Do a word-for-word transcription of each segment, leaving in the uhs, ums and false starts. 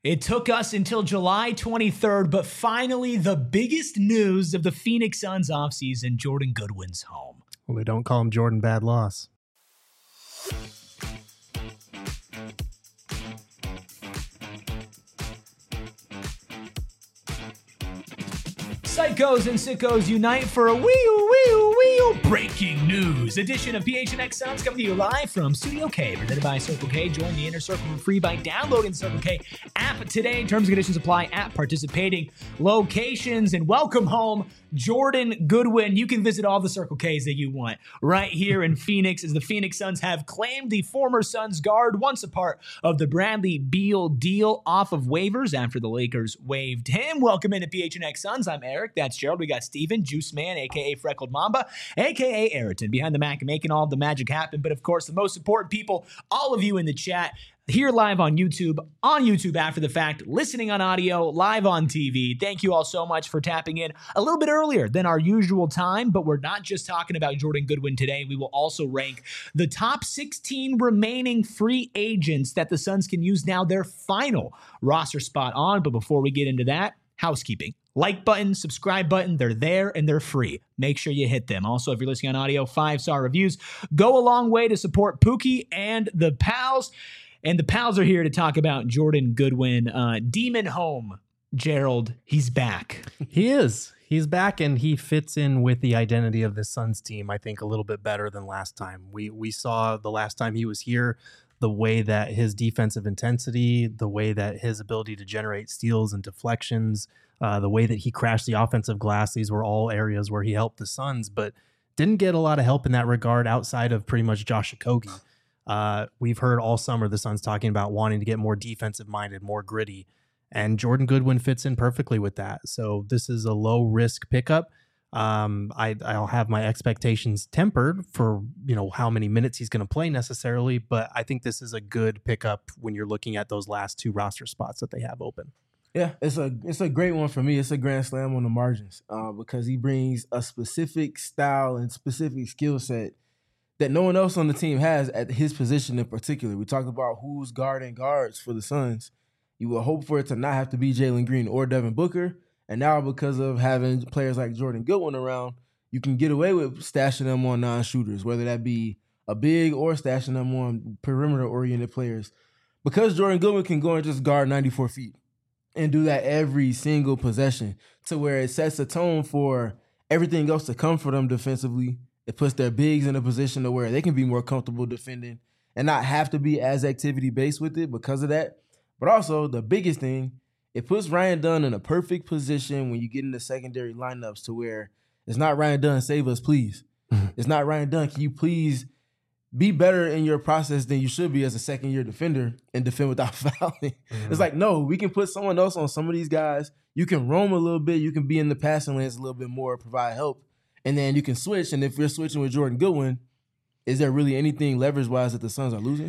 It took us until July twenty-third, but finally the biggest news of the Phoenix Suns offseason, Jordan Goodwin's home. Well, they don't call him Jordan Bad Loss. Psychos and sickos unite for a wee wee wee breaking news edition of P H N X Suns, coming to you live from Studio K, presented by Circle K. Join the Inner Circle for free by downloading the Circle K app today. Terms and conditions apply at participating locations. And welcome home, Jordan Goodwin. You can visit all the Circle Ks that you want right here in Phoenix, as the Phoenix Suns have claimed the former Suns guard, once a part of the Bradley Beal deal, off of waivers after the Lakers waived him. Welcome into P H N X Suns. I'm Eric. That's Gerald. We got Steven, Juice Man, a k a. Freckled Mamba, a k a. Ayrton, behind the Mac and making all the magic happen. But of course, the most important people, all of you in the chat, here live on YouTube, on YouTube after the fact, listening on audio, live on T V. Thank you all so much for tapping in a little bit earlier than our usual time, but we're not just talking about Jordan Goodwin today. We will also rank the top sixteen remaining free agents that the Suns can use now their final roster spot on. But before we get into that, housekeeping. Like button, subscribe button, they're there and they're free. Make sure you hit them. Also, if you're listening on audio, five-star reviews go a long way to support Pookie and the Pals. And the Pals are here to talk about Jordan Goodwin. Uh, Demon Home, Gerald, he's back. He is. He's back, and he fits in with the identity of this Suns team, I think, a little bit better than last time. We we saw the last time he was here, the way that his defensive intensity, the way that his ability to generate steals and deflections, uh, the way that he crashed the offensive glass, these were all areas where he helped the Suns, but didn't get a lot of help in that regard outside of pretty much Josh Okogie. Uh, we've heard all summer the Suns talking about wanting to get more defensive-minded, more gritty, and Jordan Goodwin fits in perfectly with that. So this is a low-risk pickup. Um, I, I'll have my expectations tempered for, you know, how many minutes he's going to play necessarily, but I think this is a good pickup when you're looking at those last two roster spots that they have open. Yeah, it's a it's a great one for me. It's a grand slam on the margins uh, because he brings a specific style and specific skill set that no one else on the team has at his position in particular. We talked about who's guarding guards for the Suns. You would hope for it to not have to be Jalen Green or Devin Booker. And now because of having players like Jordan Goodwin around, you can get away with stashing them on non-shooters, whether that be a big or stashing them on perimeter-oriented players. Because Jordan Goodwin can go and just guard ninety-four feet and do that every single possession to where it sets a tone for everything else to come for them defensively. It puts their bigs in a position to where they can be more comfortable defending and not have to be as activity-based with it because of that. But also, the biggest thing, it puts Ryan Dunn in a perfect position when you get into secondary lineups to where it's not Ryan Dunn, save us, please. Mm-hmm. It's not Ryan Dunn, can you please be better in your process than you should be as a second-year defender and defend without fouling. Mm-hmm. It's like, no, we can put someone else on some of these guys. You can roam a little bit. You can be in the passing lanes a little bit more, provide help. And then you can switch. And if you're switching with Jordan Goodwin, is there really anything leverage-wise that the Suns are losing?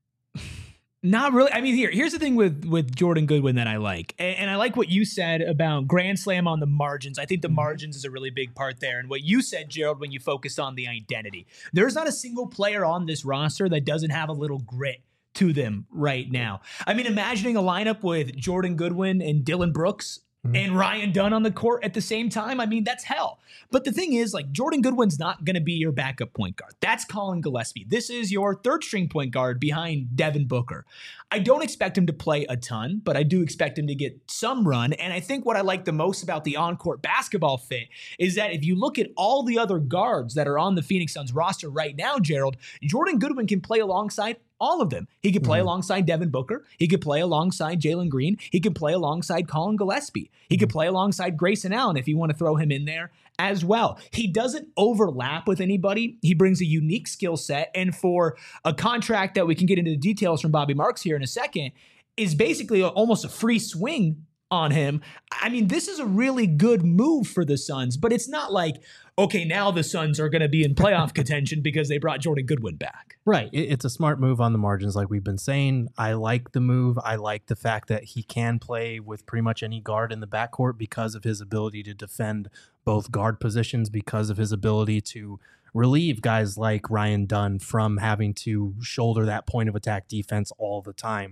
Not really. I mean, here, here's the thing with, with Jordan Goodwin that I like. And, and I like what you said about Grand Slam on the margins. I think the margins is a really big part there. And what you said, Gerald, when you focused on the identity. There's not a single player on this roster that doesn't have a little grit to them right now. I mean, imagining a lineup with Jordan Goodwin and Dylan Brooks and Ryan Dunn on the court at the same time, I mean, that's hell. But the thing is, like, Jordan Goodwin's not going to be your backup point guard. That's Colin Gillespie. This is your third string point guard behind Devin Booker. I don't expect him to play a ton, but I do expect him to get some run. And I think what I like the most about the on-court basketball fit is that if you look at all the other guards that are on the Phoenix Suns roster right now, Gerald, Jordan Goodwin can play alongside all of them. He could play mm-hmm. alongside Devin Booker. He could play alongside Jalen Green. He could play alongside Colin Gillespie. He mm-hmm. could play alongside Grayson Allen if you want to throw him in there as well. He doesn't overlap with anybody. He brings a unique skill set. And for a contract that we can get into the details from Bobby Marks here in a second, is basically a, almost a free swing on him. I mean, this is a really good move for the Suns, but it's not like, okay, now the Suns are going to be in playoff contention because they brought Jordan Goodwin back. Right. It's a smart move on the margins, like we've been saying. I like the move. I like the fact that he can play with pretty much any guard in the backcourt because of his ability to defend both guard positions, because of his ability to relieve guys like Ryan Dunn from having to shoulder that point of attack defense all the time.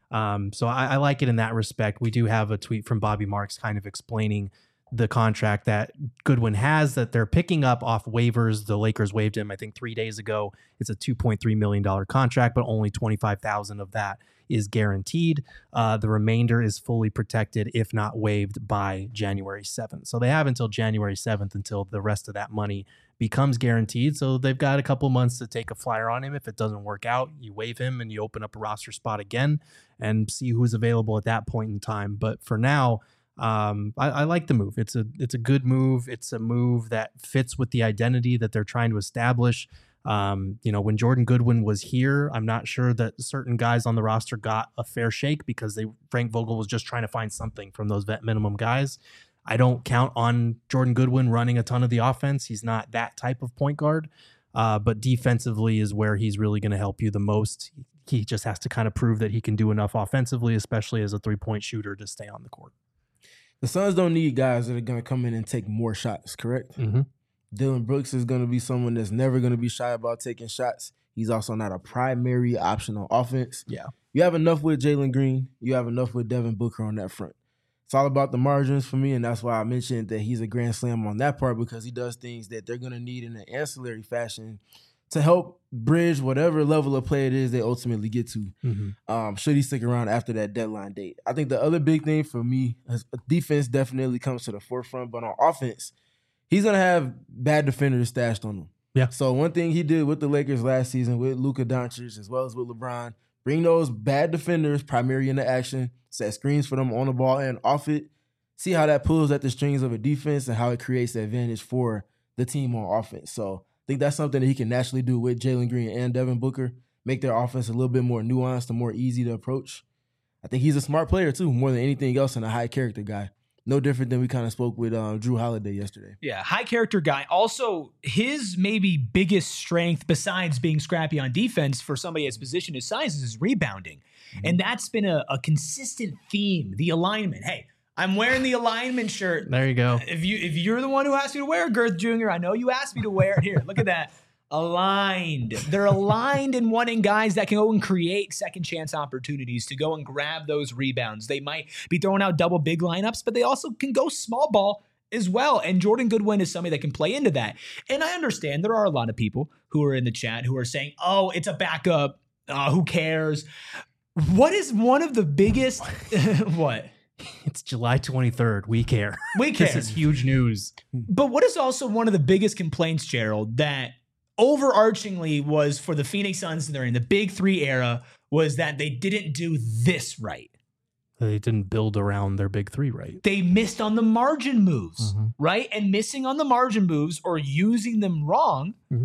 Um, so I, I like it in that respect. We do have a tweet from Bobby Marks kind of explaining the contract that Goodwin has that they're picking up off waivers. The Lakers waived him, I think, three days ago. It's a two point three million dollars contract, but only twenty-five thousand dollars of that is guaranteed. Uh, the remainder is fully protected, if not waived, by January seventh. So they have until January seventh until the rest of that money becomes guaranteed. So they've got a couple months to take a flyer on him. If it doesn't work out, you waive him and you open up a roster spot again and see who's available at that point in time. But for now, Um, I, I like the move. It's a it's a good move. It's a move that fits with the identity that they're trying to establish. Um, you know, when Jordan Goodwin was here, I'm not sure that certain guys on the roster got a fair shake because they Frank Vogel was just trying to find something from those vet minimum guys. I don't count on Jordan Goodwin running a ton of the offense. He's not that type of point guard. Uh, but defensively is where he's really going to help you the most. He just has to kind of prove that he can do enough offensively, especially as a three-point shooter, to stay on the court. The Suns don't need guys that are going to come in and take more shots, correct? Mm-hmm. Dylan Brooks is going to be someone that's never going to be shy about taking shots. He's also not a primary option on offense. Yeah. You have enough with Jalen Green. You have enough with Devin Booker on that front. It's all about the margins for me, and that's why I mentioned that he's a grand slam on that part, because he does things that they're going to need in an ancillary fashion to help bridge whatever level of play it is they ultimately get to. Mm-hmm. Um, should he stick around after that deadline date? I think the other big thing for me is defense definitely comes to the forefront, but on offense, he's going to have bad defenders stashed on him. Yeah. So one thing he did with the Lakers last season with Luka Doncic as well as with LeBron, bring those bad defenders primarily into action, set screens for them on the ball and off it, see how that pulls at the strings of a defense and how it creates the advantage for the team on offense. So I think that's something that he can naturally do with Jalen Green and Devin Booker, make their offense a little bit more nuanced and more easy to approach. I think he's a smart player too, more than anything else, and a high character guy. No different than we kind of spoke with um, Drew Holiday yesterday. Yeah, high character guy. Also, his maybe biggest strength, besides being scrappy on defense for somebody at his position, his size, is his rebounding. Mm-hmm. And that's been a, a consistent theme, the alignment. Hey, I'm wearing the alignment shirt. There you go. If, you, if you're the one who asked me to wear it, Girth Junior, I know you asked me to wear it. Here, look at that. Aligned. They're aligned in wanting guys that can go and create second chance opportunities to go and grab those rebounds. They might be throwing out double big lineups, but they also can go small ball as well. And Jordan Goodwin is somebody that can play into that. And I understand there are a lot of people who are in the chat who are saying, oh, it's a backup. Uh, who cares? What is one of the biggest, what? It's July twenty-third. We care. We care. This is huge news. But what is also one of the biggest complaints, Gerald, that overarchingly was for the Phoenix Suns during the Big Three era was that they didn't do this right. They didn't build around their big three right. They missed on the margin moves, mm-hmm. right? And missing on the margin moves or using them wrong mm-hmm.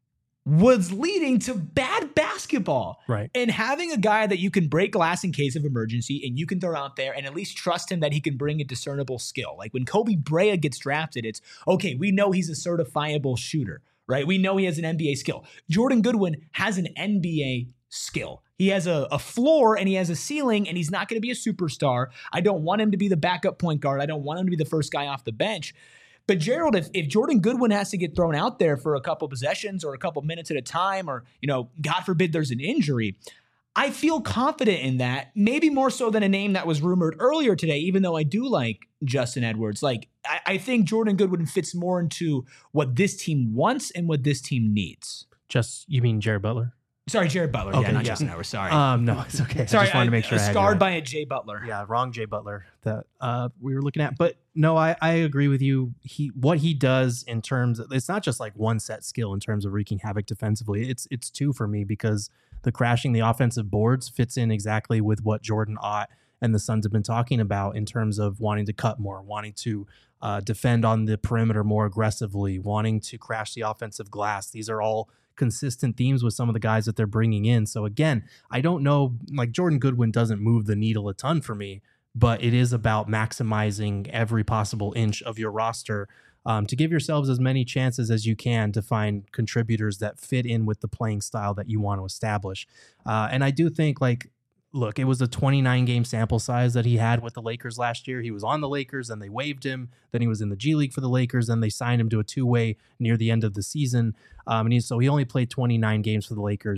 was leading to bad basketball. Right. And having a guy that you can break glass in case of emergency and you can throw out there and at least trust him that he can bring a discernible skill. Like when Kobe Bryant gets drafted, it's, okay, we know he's a certifiable shooter, right? We know he has an N B A skill. Jordan Goodwin has an N B A skill. He has a, a floor and he has a ceiling, and he's not going to be a superstar. I don't want him to be the backup point guard. I don't want him to be the first guy off the bench. But Gerald, if, if Jordan Goodwin has to get thrown out there for a couple possessions or a couple minutes at a time, or, you know, God forbid there's an injury, I feel confident in that, maybe more so than a name that was rumored earlier today, even though I do like Justin Edwards. Like, I, I think Jordan Goodwin fits more into what this team wants and what this team needs. Just, you mean Jared Butler? Sorry, Jared Butler. Okay, yeah, not yeah. Justin Edwards. Sorry. Um, no, it's okay. Sorry, I just wanted to make sure I, I had scarred you by a Jay Butler. Yeah, wrong Jay Butler that uh, we were looking at. But no, I, I agree with you. He what he does in terms of, it's not just like one set skill in terms of wreaking havoc defensively. It's it's two for me, because the crashing the offensive boards fits in exactly with what Jordan Ott and the Suns have been talking about in terms of wanting to cut more, wanting to uh, defend on the perimeter more aggressively, wanting to crash the offensive glass. These are all consistent themes with some of the guys that they're bringing in. So again, I don't know, like Jordan Goodwin doesn't move the needle a ton for me, but it is about maximizing every possible inch of your roster um, to give yourselves as many chances as you can to find contributors that fit in with the playing style that you want to establish. Uh, and I do think, like, look, it was a twenty-nine game sample size that he had with the Lakers last year. He was on the Lakers and they waived him. Then he was in the G League for the Lakers and they signed him to a two-way near the end of the season. Um, and he, so he only played twenty-nine games for the Lakers.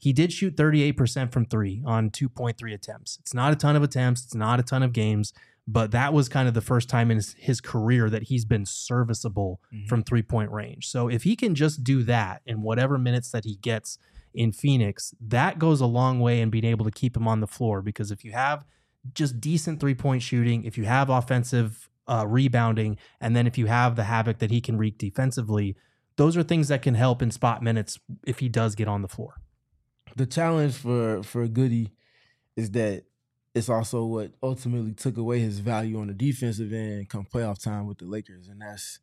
he did shoot thirty-eight percent from three on two point three attempts. It's not a ton of attempts. It's not a ton of games, but that was kind of the first time in his, his career that he's been serviceable mm-hmm. from three-point range. So if he can just do that in whatever minutes that he gets in Phoenix, that goes a long way in being able to keep him on the floor, because if you have just decent three-point shooting, if you have offensive uh, rebounding, and then if you have the havoc that he can wreak defensively, those are things that can help in spot minutes if he does get on the floor. The challenge for, for Goody is that it's also what ultimately took away his value on the defensive end come playoff time with the Lakers. And that's,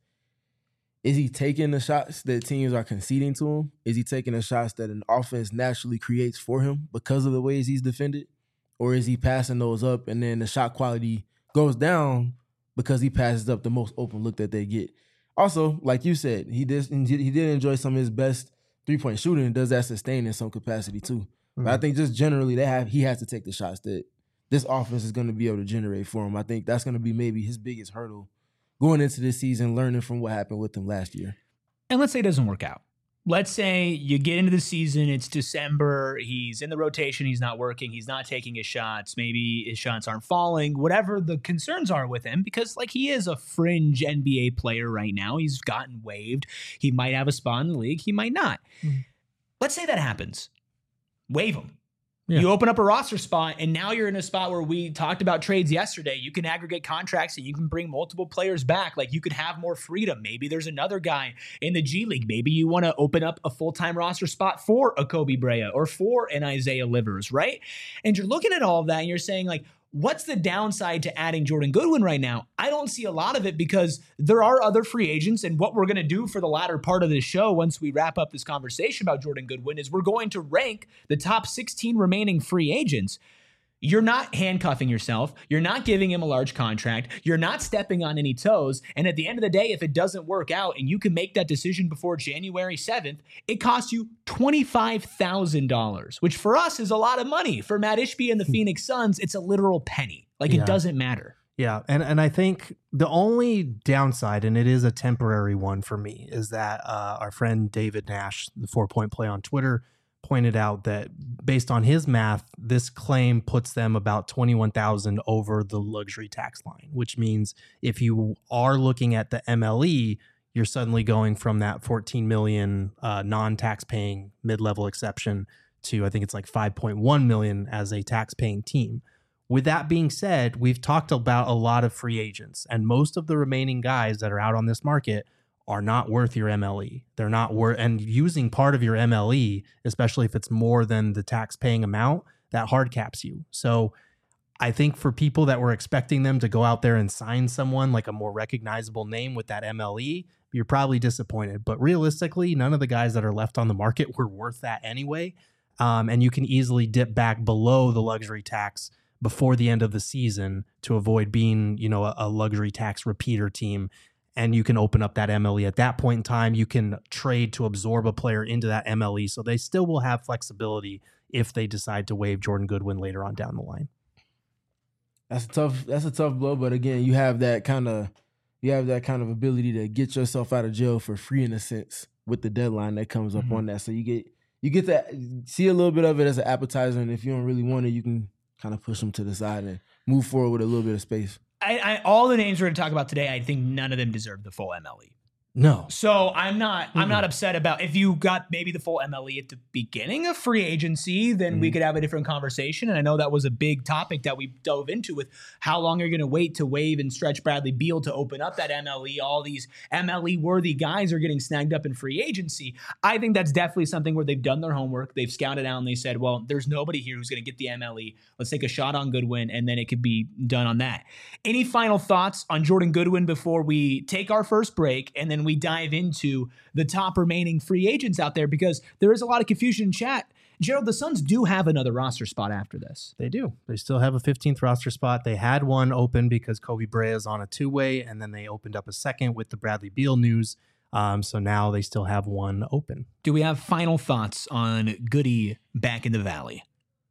is he taking the shots that teams are conceding to him? Is he taking the shots that an offense naturally creates for him because of the ways he's defended? Or is he passing those up and then the shot quality goes down because he passes up the most open look that they get? Also, like you said, he did, he did enjoy some of his best three-point shooting and does that sustain in some capacity too. Mm-hmm. But I think just generally they have he has to take the shots that this offense is going to be able to generate for him. I think that's going to be maybe his biggest hurdle going into this season, learning from what happened with him last year. And let's say it doesn't work out. Let's say you get into the season, it's December, he's in the rotation, he's not working, he's not taking his shots, maybe his shots aren't falling, whatever the concerns are with him, because like he is a fringe N B A player right now. He's gotten waived. He might have a spot in the league, he might not. Mm-hmm. Let's say that happens. Waive him. Yeah. You open up a roster spot, and now you're in a spot where we talked about trades yesterday. You can aggregate contracts, and you can bring multiple players back. Like, you could have more freedom. Maybe there's another guy in the G League. Maybe you want to open up a full-time roster spot for a Kobe Brea or for an Isaiah Livers, right? And you're looking at all of that, and you're saying, like, what's the downside to adding Jordan Goodwin right now? I don't see a lot of it, because there are other free agents, and what we're going to do for the latter part of this show once we wrap up this conversation about Jordan Goodwin is we're going to rank the top sixteen remaining free agents. You're not handcuffing yourself. You're not giving him a large contract. You're not stepping on any toes. And at the end of the day, if it doesn't work out and you can make that decision before January seventh, it costs you twenty-five thousand dollars, which for us is a lot of money. For Matt Ishbia and the Phoenix Suns, it's a literal penny. Like, yeah. It doesn't matter. Yeah, and, and I think the only downside, and it is a temporary one for me, is that uh, our friend David Nash, the Four Point Play on Twitter, pointed out that based on his math, this claim puts them about twenty-one thousand over the luxury tax line, which means if you are looking at the M L E, you're suddenly going from that fourteen million uh, non-tax paying mid-level exception to, I think it's like five point one million as a tax paying team. With that being said, we've talked about a lot of free agents, and most of the remaining guys that are out on this market are not worth your M L E. They're not worth, and using part of your M L E, especially if it's more than the tax paying amount, that hard caps you. So I think for people that were expecting them to go out there and sign someone like a more recognizable name with that M L E, you're probably disappointed. But realistically, none of the guys that are left on the market were worth that anyway. Um, and you can easily dip back below the luxury tax before the end of the season to avoid being, you know, a, a luxury tax repeater team. And you can open up that M L E at that point in time. You can trade to absorb a player into that M L E. So they still will have flexibility if they decide to waive Jordan Goodwin later on down the line. That's a tough, that's a tough blow. But again, you have that kind of, you have that kind of ability to get yourself out of jail for free in a sense with the deadline that comes up mm-hmm. on that. So you get, you get to see a little bit of it as an appetizer. And if you don't really want it, you can kind of push them to the side and move forward with a little bit of space. I, I, all the names we're going to talk about today, I think none of them deserve the full M L E. No. So I'm not mm-hmm. I'm not upset about if you got maybe the full M L E at the beginning of free agency, then mm-hmm. we could have a different conversation. And I know that was a big topic that we dove into with how long are you going to wait to waive and stretch Bradley Beal to open up that M L E. All these M L E worthy guys are getting snagged up in free agency. I think that's definitely something where they've done their homework. They've scouted out and they said, well, there's nobody here who's going to get the M L E. Let's take a shot on Goodwin, and then it could be done on that. Any final thoughts on Jordan Goodwin before we take our first break and then we dive into the top remaining free agents out there, because there is a lot of confusion in chat. Gerald, the Suns do have another roster spot after this. They do. They still have a fifteenth roster spot. They had one open because Kobe Brea is on a two-way, and then they opened up a second with the Bradley Beal news. Um, so now they still have one open. Do we have final thoughts on Goody back in the Valley?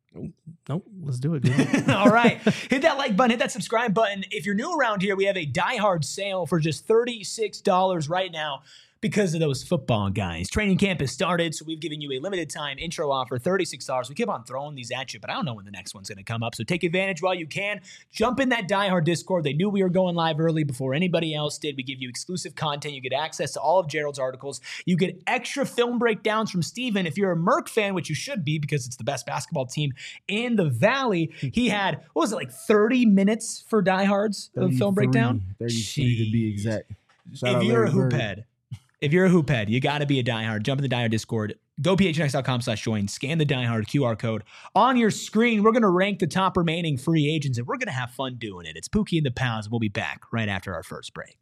Nope, let's do it. All right. Hit that like button, hit that subscribe button. If you're new around here, we have a Die Hard sale for just thirty-six dollars right now. because of those football guys. Training camp has started, so we've given you a limited time intro offer, thirty-six dollars. We keep on throwing these at you, but I don't know when the next one's going to come up, so take advantage while you can. Jump in that Die Hard Discord. They knew we were going live early before anybody else did. We give you exclusive content. You get access to all of Gerald's articles. You get extra film breakdowns from Steven. If you're a Merc fan, which you should be because it's the best basketball team in the Valley, he had, what was it, like thirty minutes for Die Hards of film breakdown? thirty-three to be exact. Shout if out you're Larry a hoop Bird. head, if you're a hoop head, you got to be a diehard. Jump in the diehard Discord. Go p h n x dot com slash join. Scan the diehard Q R code on your screen. We're going to rank the top remaining free agents, and we're going to have fun doing it. It's Pookie and the Pals. We'll be back right after our first break.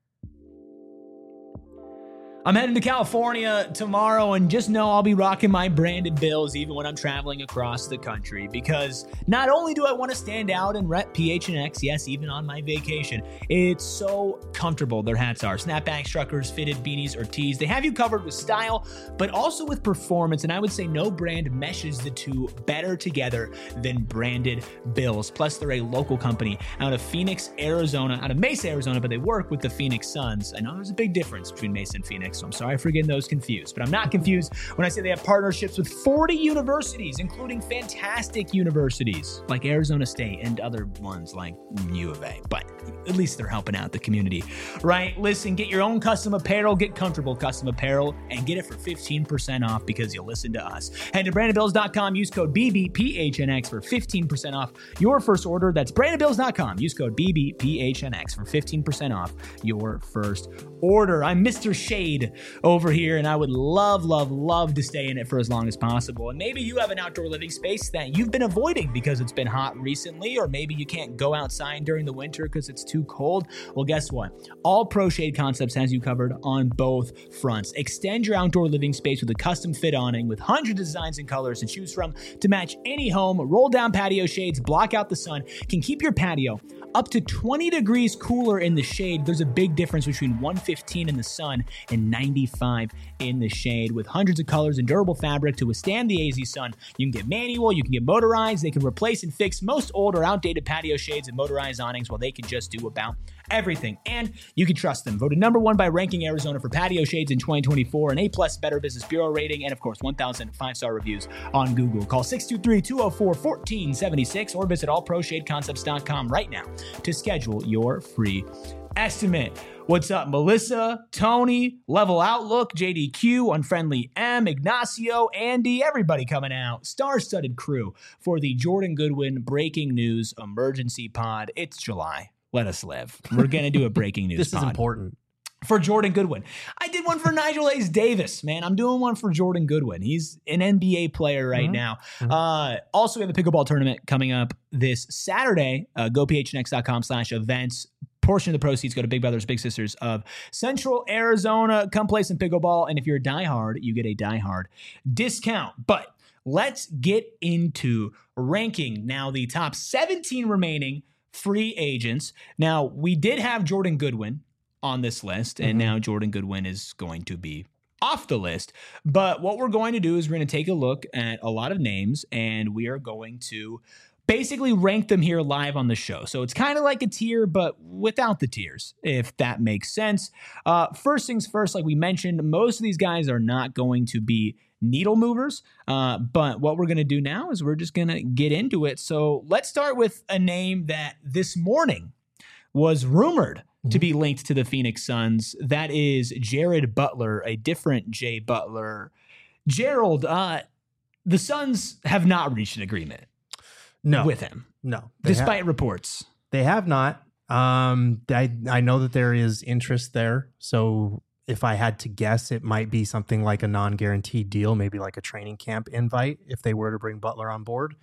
I'm heading to California tomorrow, and just know I'll be rocking my branded Bills even when I'm traveling across the country, because not only do I want to stand out and rep P H N X, yes, even on my vacation, it's so comfortable. Their hats are snapback, truckers, fitted beanies, or tees. They have you covered with style, but also with performance, and I would say no brand meshes the two better together than branded Bills. Plus, they're a local company out of Phoenix, Arizona, out of Mesa, Arizona, but they work with the Phoenix Suns. I know there's a big difference between Mesa and Phoenix, so I'm sorry for getting those confused. But I'm not confused when I say they have partnerships with forty universities, including fantastic universities like Arizona State and other ones like U of A. But at least they're helping out the community, right? Listen, get your own custom apparel, get comfortable custom apparel, and get it for fifteen percent off because you listen to us. Head to branded bills dot com, use code B B P H N X for fifteen percent off your first order. That's branded bills dot com. Use code B B P H N X for fifteen percent off your first order. I'm Mister Shade over here, and I would love, love, love to stay in it for as long as possible. And maybe you have an outdoor living space that you've been avoiding because it's been hot recently, or maybe you can't go outside during the winter because it's too cold. Well, guess what? All Pro Shade Concepts has you covered on both fronts. Extend your outdoor living space with a custom fit awning with hundreds of designs and colors to choose from to match any home. Roll down patio shades, block out the sun, can keep your patio up to twenty degrees cooler in the shade. There's a big difference between one fifteen in the sun and ninety-five in the shade. With hundreds of colors and durable fabric to withstand the A Z sun, you can get manual, you can get motorized. They can replace and fix most old or outdated patio shades and motorized awnings, while they can just do about everything. And you can trust them. Voted number one by Ranking Arizona for patio shades in twenty twenty-four, an A-plus Better Business Bureau rating, and of course, one thousand five-star reviews on Google. Call six two three, two oh four, one four seven six or visit all pro shade concepts dot com right now to schedule your free estimate. What's up, Melissa, Tony, Level Outlook, J D Q, Unfriendly M, Ignacio, Andy, everybody coming out. Star-studded crew for the Jordan Goodwin Breaking News Emergency Pod. It's July. Let us live. We're going to do a breaking news This pod is important. for Jordan Goodwin. I did one for Nigel Hayes Davis, man. I'm doing one for Jordan Goodwin. He's an N B A player right Mm-hmm. now. Mm-hmm. Uh, also, we have a pickleball tournament coming up this Saturday. Uh, go p h n x dot com slash events. Portion of the proceeds go to Big Brothers Big Sisters of Central Arizona. Come play some pickleball, and if you're a diehard, you get a diehard discount. But let's get into ranking now the top seventeen remaining free agents. Now, we did have Jordan Goodwin on this list, and mm-hmm. now Jordan Goodwin is going to be off the list. But what we're going to do is we're going to take a look at a lot of names, and we are going to basically rank them here live on the show. So it's kind of like a tier, but without the tiers, if that makes sense. Uh, first things first, like we mentioned, most of these guys are not going to be needle movers. Uh, but what we're going to do now is we're just going to get into it. So let's start with a name that this morning was rumored mm-hmm. to be linked to the Phoenix Suns. That is Jared Butler, a different Jay Butler. Gerald, uh, the Suns have not reached an agreement. No, with him. No. Despite have, reports. They have not. Um, I, I know that there is interest there. So if I had to guess, it might be something like a non-guaranteed deal, maybe like a training camp invite if they were to bring Butler on board.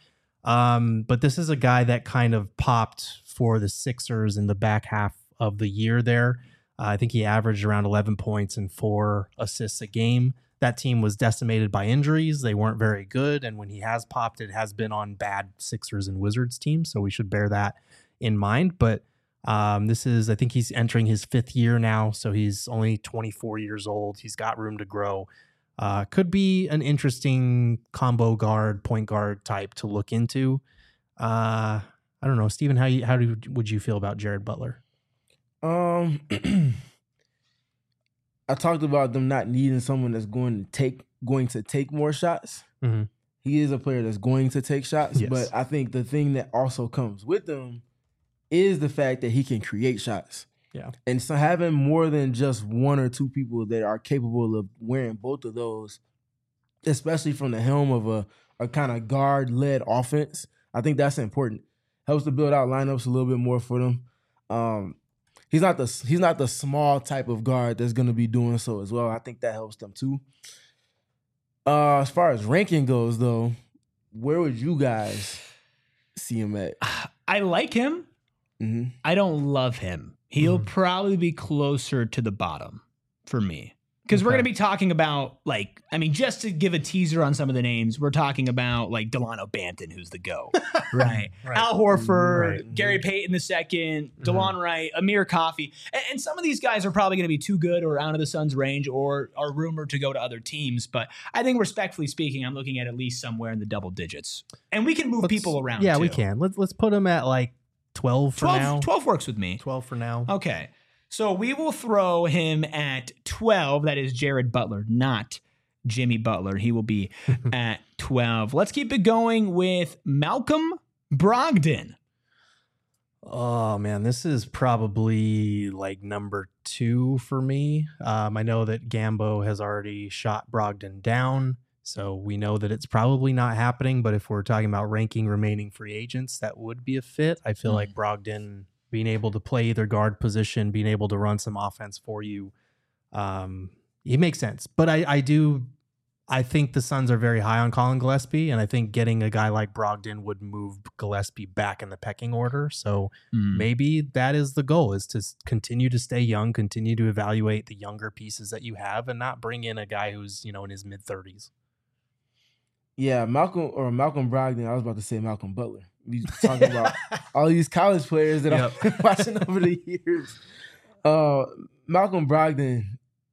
Um, but this is a guy that kind of popped for the Sixers in the back half of the year there. Uh, I think he averaged around eleven points and four assists a game. That team was decimated by injuries. They weren't very good. And when he has popped, it has been on bad Sixers and Wizards teams. So we should bear that in mind. But um, this is, I think he's entering his fifth year now. So he's only twenty-four years old. He's got room to grow. Uh, could be an interesting combo guard, point guard type to look into. Uh, I don't know, Steven, how you, how do, would you feel about Jared Butler? Um, I talked about them not needing someone that's going to take going to take more shots. Mm-hmm. He is a player that's going to take shots, Yes. but I think the thing that also comes with him is the fact that he can create shots. Yeah. And so having more than just one or two people that are capable of wearing both of those, especially from the helm of a, a kind of guard-led offense, I think that's important. Helps to build out lineups a little bit more for them. Um, he's not the he's not the small type of guard that's going to be doing so as well. I think that helps them too. Uh, as far as ranking goes, though, where would you guys see him at? I like him. Mm-hmm. I don't love him. He'll Mhm. probably be closer to the bottom for me. Because we're Okay. going to be talking about, like, I mean, just to give a teaser on some of the names, we're talking about, like, Delano Banton, who's the GOAT, right? Right. Al Horford, Right. Gary Payton the second, Mhm. DeLon Wright, Amir Coffey. And, and some of these guys are probably going to be too good or out of the Suns' range or are rumored to go to other teams. But I think, respectfully speaking, I'm looking at at least somewhere in the double digits. And we can move Let's- people around, Yeah, too. we can. Let's let's put him at like twelve for twelve, now. twelve works with me. twelve for now. Okay. So we will throw him at twelve. That is Jared Butler, not Jimmy Butler. He will be at twelve. Let's keep it going with Malcolm Brogdon. Oh man, this is probably like number two for me. Um, I know that Gambo has already shot Brogdon down, so we know that it's probably not happening. But if we're talking about ranking remaining free agents, that would be a fit. I feel Mm. like Brogdon being able to play either guard position, being able to run some offense for you, um, he makes sense. But I, I do. I think the Suns are very high on Colin Gillespie, and I think getting a guy like Brogdon would move Gillespie back in the pecking order. So maybe that is the goal, is to s- continue to stay young, continue to evaluate the younger pieces that you have, and not bring in a guy who's, you know, in his mid thirties. Yeah, Malcolm or Malcolm Brogdon. I was about to say Malcolm Butler. We talking about all these college players that I've been watching over the years. Uh, Malcolm Brogdon,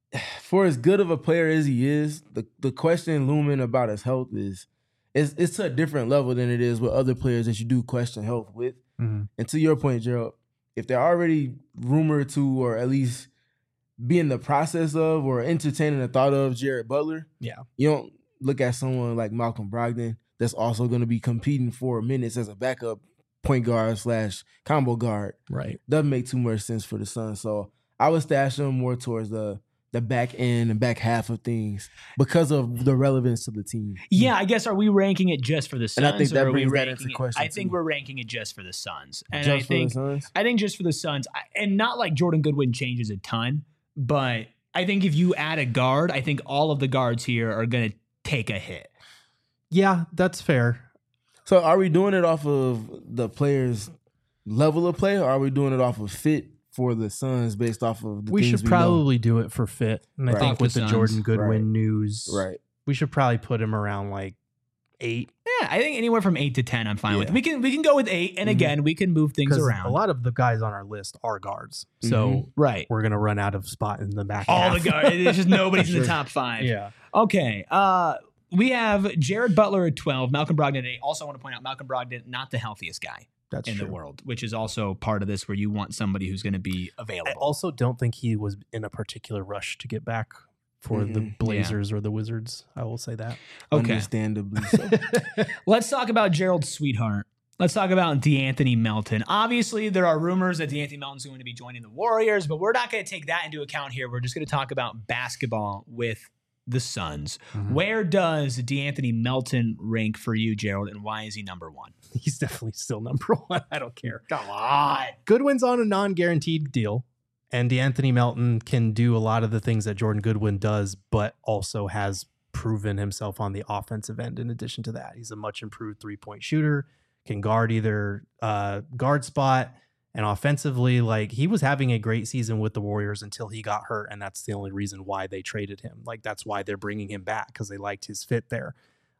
for as good of a player as he is, the, the question looming about his health is, it's, it's to a different level than it is with other players that you do question health with. Mm-hmm. And to your point, Gerald, if they're already rumored to, or at least be in the process of, or entertaining the thought of Jared Butler, Yeah. you don't look at someone like Malcolm Brogdon that's also going to be competing for minutes as a backup point guard slash combo guard. Right. Doesn't make too much sense for the Suns. So I would stash them more towards the the back end and back half of things because of the relevance to the team. Yeah, I guess, are we ranking it just for the Suns? And I think that or are we brings that ranking into it- question, I think too. we're ranking it just for the Suns. And Just I for think the Suns? I think just for the Suns, I- and not like Jordan Goodwin changes a ton, but I think if you add a guard, I think all of the guards here are going to take a hit. Yeah, that's fair. So are we doing it off of the players' level of play, or are we doing it off of fit for the Suns based off of the We things should we know? probably do it for fit. And I Right. think Off the with the Suns. Jordan Goodwin Right. news, Right. we should probably put him around like eight. Yeah, I think anywhere from eight to ten, I'm fine with. Yeah. We can we can go with eight, and Mhm. again, we can move things Because around. a lot of the guys on our list are guards. So Mhm. right. we're going to run out of spot in the back All half. the guards. It's just nobody's in Sure. the top five. Yeah. Okay. Uh, we have Jared Butler at twelve, Malcolm Brogdon at eight. Also, want to point out Malcolm Brogdon, not the healthiest guy That's in true. the world, which is also part of this where you want somebody who's going to be I available. also don't think he was in a particular rush to get back for the Mhm. Blazers or the Wizards. I will say that. Okay. Understandably so. Let's talk about Gerald Sweetheart. Let's talk about DeAnthony Melton. Obviously, there are rumors that DeAnthony Melton's going to be joining the Warriors, but we're not going to take that into account here. We're just going to talk about basketball with the Suns. Mhm. Where does DeAnthony Melton rank for you, Gerald, and why is he number one? He's definitely still number one. I don't care. Come on. Goodwin's on a non-guaranteed deal, and DeAnthony Melton can do a lot of the things that Jordan Goodwin does, but also has proven himself on the offensive end. In addition to that, he's a much improved three-point shooter, can guard either uh, guard spot, and offensively, like, he was having a great season with the Warriors until he got hurt, and that's the only reason why they traded him. Like, that's why they're bringing him back, because they liked his fit there.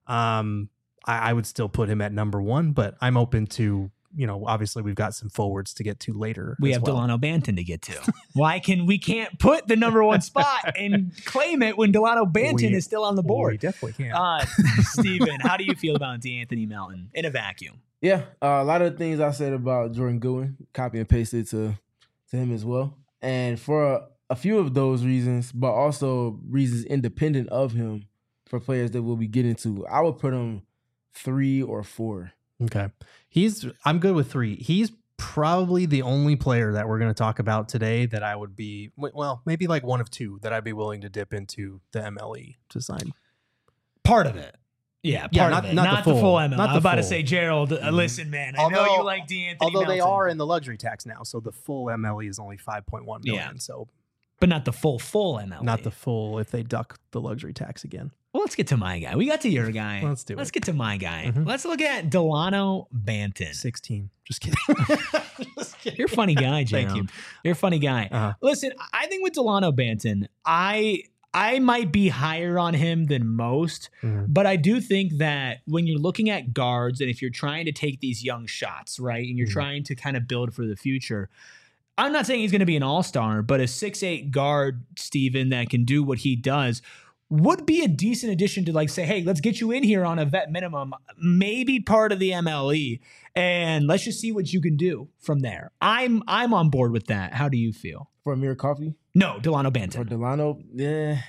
Um, I, I would still put him at number one, but I'm open to, you know, obviously we've got some forwards to get to later. We as have well. Delano Banton to get to. Why can we can't put the number one spot and claim it when Delano Banton We- is still on the We board? definitely can. Uh, Steven, how do you feel about DeAnthony Melton in a vacuum? Yeah, uh, a lot of the things I said about Jordan Goodwin, copy and pasted to to him as well. And for a, a few of those reasons, but also reasons independent of him for players that we'll be getting to. I would put him three or four. Okay. He's I'm good with three. He's probably the only player that we're going to talk about today that I would be, well, maybe like one of two that I'd be willing to dip into the M L E to sign. Part of it. Yeah, part Yeah, not- of it. not Not, the the full. full M L. Not I'm the about to full. say, Gerald, uh, listen, man, I know Although- you like DeAnthony Although they Melton, are in the luxury tax now, so the full M L E is only five point one million. Yeah. So but not the full, full M L. not the full if they duck the luxury tax again. Well, let's get to my guy. We got to your guy. Let's do Let's it. get to my guy. Mhm. Let's look at Delano Banton. sixteen. Just kidding. Just kidding. You're a funny guy, Thank Gerald. you. You're a funny guy. Uh-huh. Listen, I think with Delano Banton, I I might be higher on him than most, Mhm. but I do think that when you're looking at guards and if you're trying to take these young shots, right, and you're Mhm. trying to kind of build for the future, I'm not saying he's going to be an all-star, but a six eight guard, Steven, that can do what he does would be a decent addition to, like, say, hey, let's get you in here on a vet minimum, maybe part of the M L E, and let's just see what you can do from there. I'm I'm on board with that. How do you feel? For Amir Coffey? No, Delano For Banton. Delano? Yeah.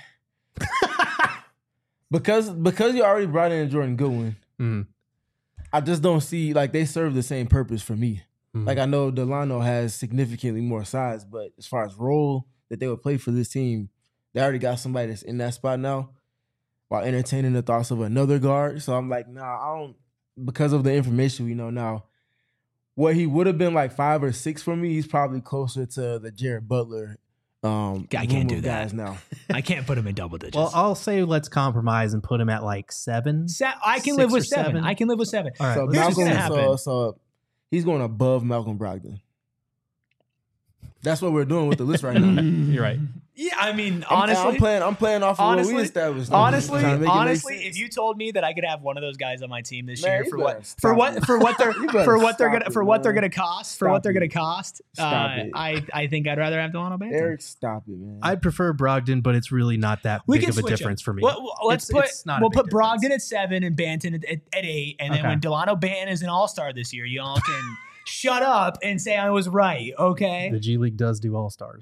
because because you already brought in Jordan Goodwin, Mhm. I just don't see, like, they serve the same purpose for me. Mhm. Like, I know Delano has significantly more size, but as far as role that they would play for this team, they already got somebody that's in that spot now while entertaining the thoughts of another guard. So I'm like, nah, I don't, because of the information we know now, what he would have been like five or six for me, he's probably closer to the Jared Butler. Um, I can't room do of that. guys now. I can't put him in double digits. Well, I'll say let's compromise and put him at like seven. Se- I can six live with or seven. seven. I can live with seven. All right, So let's Here's just what's Malcolm, gonna so, happen. so he's going above Malcolm Brogdon. That's what we're doing with the list right now. You're right. Yeah, I mean, I'm- honestly, I'm playing. I'm playing off of honestly- what we established. I'm just honestly, trying to make it make honestly, sense. if you told me that I could have one of those guys on my team this Man, year you for better what stop for what it. for what they're You better for what they're stop gonna it, for what they're man. gonna cost for Stop what they're it. gonna cost, Stop uh, it. I I think I'd rather have Delano Banton. Eric, stop it, man. I'd prefer Brogdon, but it's really not that We big can of a switch difference them. for me. Well, well, let's It's- put it's not a we'll big put Brogdon difference. at seven and Banton at, at, at eight, and then Okay. when Delano Banton is an All Star this year, y'all can shut up and say I was right. Okay. The G League does do all stars.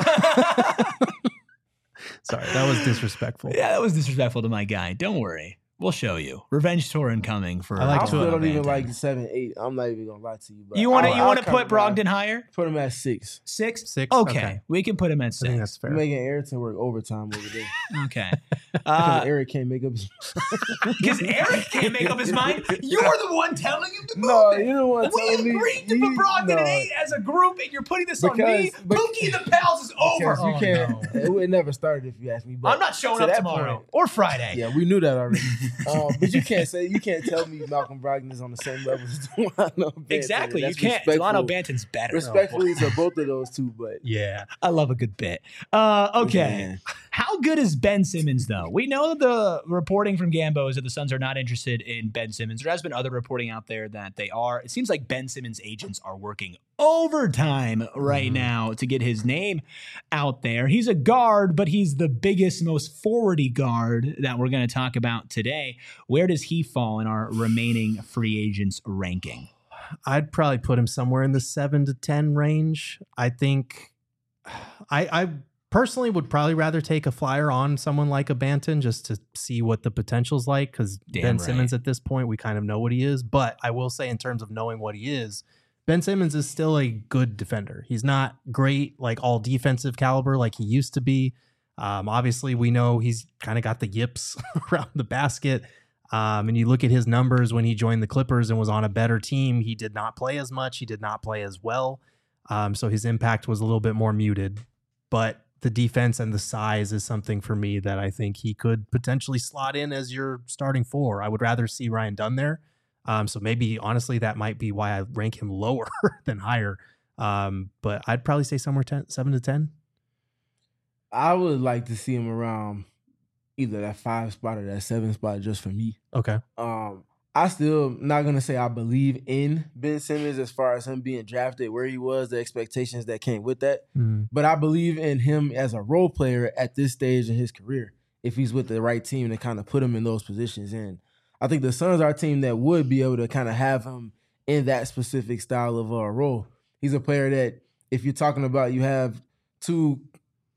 Sorry, that was disrespectful. Yeah, that was disrespectful to my guy. Don't worry. We'll show you. Revenge tour incoming for I like I to- still Delano don't even Banton. like seven, eight. I'm not even gonna lie to you. But You want to I'll- you want I'll to put compromise. Brogdon higher? Put him at six. Six? Six? Okay. Okay. We can put him at I think that's six. fair. You're making Ayrton work overtime over there Okay. because Uh, Eric can't make up his. Because Eric can't make up his mind. You're the one telling him to move No, it. you know what? We agreed to put Brogdon at eight as a group, and you're putting this on me. Because- bec- Pookie the Pals is over. Because you Oh, can't. no. It would never started if you ask me. But I'm not showing to up that tomorrow point- or Friday. Yeah, we knew that already. um, but you can't say you can't tell me Malcolm Brogdon is on the same level as Delano Banton. Exactly. You That's can't. respectful- Delano Banton's better. Respectfully to both of those two, but Yeah. I love a good bit. Uh, okay. Man. How good is Ben Simmons, though? We know the reporting from Gambo is that the Suns are not interested in Ben Simmons. There has been other reporting out there that they are. It seems like Ben Simmons' agents are working overtime right Mhm. now to get his name out there. He's a guard, but he's the biggest, most forwardy guard that we're going to talk about today. Where does he fall in our remaining free agents ranking? I'd probably put him somewhere in the seven to ten range. I think I, I personally would probably rather take a flyer on someone like a Banton just to see what the potential's like. Because Damn Ben right. Simmons at this point, we kind of know what he is. But I will say, in terms of knowing what he is, Ben Simmons is still a good defender. He's not great, like all defensive caliber like he used to be. Um, obviously, we know he's kind of got the yips around the basket. Um, and you look at his numbers when he joined the Clippers and was on a better team, he did not play as much. He did not play as well. Um, so his impact was a little bit more muted. But the defense and the size is something for me that I think he could potentially slot in as your starting four. I would rather see Ryan Dunn there. Um, so maybe, honestly, that might be why I rank him lower than higher. Um, but I'd probably say somewhere ten, seven to ten. I would like to see him around either that five spot or that seven spot just for me. Okay. Um, I still not gonna say I believe in Ben Simmons as far as him being drafted where he was, the expectations that came with that. Mm. But I believe in him as a role player at this stage in his career, if he's with the right team to kind of put him in those positions. And I think the Suns are a team that would be able to kind of have him in that specific style of uh, role. He's a player that, if you're talking about you have two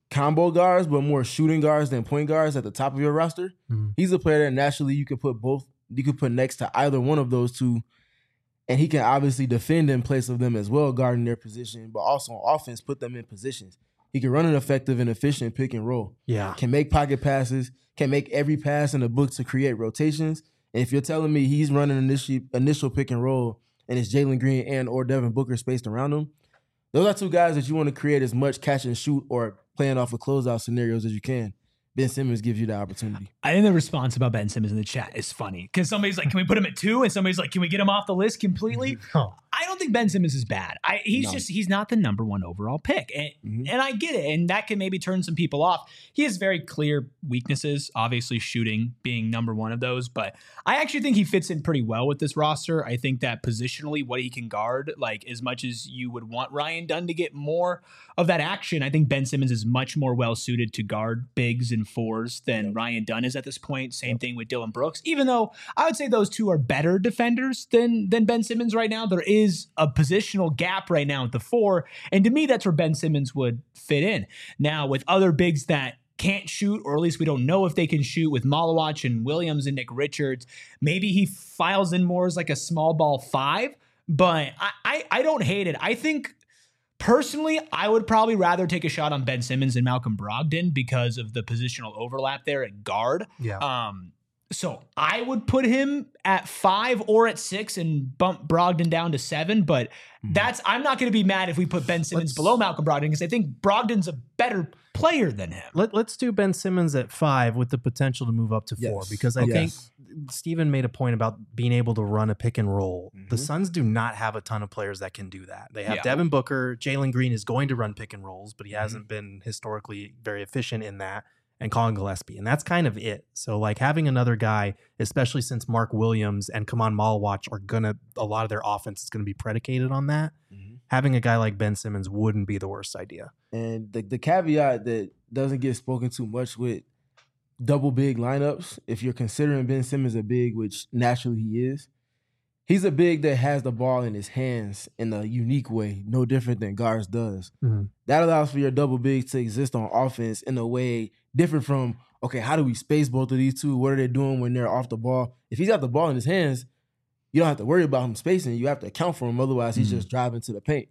combo guards, but more shooting guards than point guards at the top of your roster. Mhm. He's a player that naturally you could put both, you could put next to either one of those two, and he can obviously defend in place of them as well, guarding their position, but also on offense, put them in positions. He can run an effective and efficient pick and roll. Yeah. Can make pocket passes, can make every pass in the book to create rotations. And if you're telling me he's running an initial, initial pick and roll and it's Jalen Green and or Devin Booker spaced around him, those are two guys that you want to create as much catch and shoot or playing off of closeout scenarios as you can. Ben Simmons gives you the opportunity. I think the response about Ben Simmons in the chat is funny because somebody's like, can we put him at two? And somebody's like, can we get him off the list completely? Oh. I don't think Ben Simmons is bad. I, he's No. just, he's not the number one overall pick. And, Mhm. and I get it. And that can maybe turn some people off. He has very clear weaknesses, obviously shooting being number one of those. But I actually think he fits in pretty well with this roster. I think that positionally, what he can guard, like as much as you would want Ryan Dunn to get more of that action, I think Ben Simmons is much more well suited to guard bigs and fours than Yep. Ryan Dunn is at this point. Same Yep. thing with Dylan Brooks, even though I would say those two are better defenders than, than Ben Simmons right now. There is a positional gap right now at the four. And to me, that's where Ben Simmons would fit in. Now, with other bigs that can't shoot, or at least we don't know if they can shoot with Malawach and Williams and Nick Richards, maybe he files in more as like a small ball five. But I, I, I don't hate it. I think personally, I would probably rather take a shot on Ben Simmons than Malcolm Brogdon because of the positional overlap there at guard. Yeah. Um, so I would put him at five or at six and bump Brogdon down to seven. But that's I'm not going to be mad if we put Ben Simmons Let's- below Malcolm Brogdon because I think Brogdon's a better player than him. Let, let's do Ben Simmons at five with the potential to move up to four Yes. because I Okay. think Steven made a point about being able to run a pick and roll. The Mhm. Suns do not have a ton of players that can do that. They have Yeah. Devin Booker. Jalen Green is going to run pick and rolls, but he hasn't been historically very efficient in that. And Colin Gillespie. And that's kind of it. So like having another guy, especially since Mark Williams and Kaman Malawach are going to, a lot of their offense is going to be predicated on that. Mhm. Having a guy like Ben Simmons wouldn't be the worst idea. And the, the caveat that doesn't get spoken too much with double big lineups, if you're considering Ben Simmons a big, which naturally he is, he's a big that has the ball in his hands in a unique way, no different than guards does. Mhm. That allows for your double big to exist on offense in a way different from, okay, how do we space both of these two? What are they doing when they're off the ball? If he's got the ball in his hands, you don't have to worry about him spacing. You have to account for him. Otherwise, he's Mhm. just driving to the paint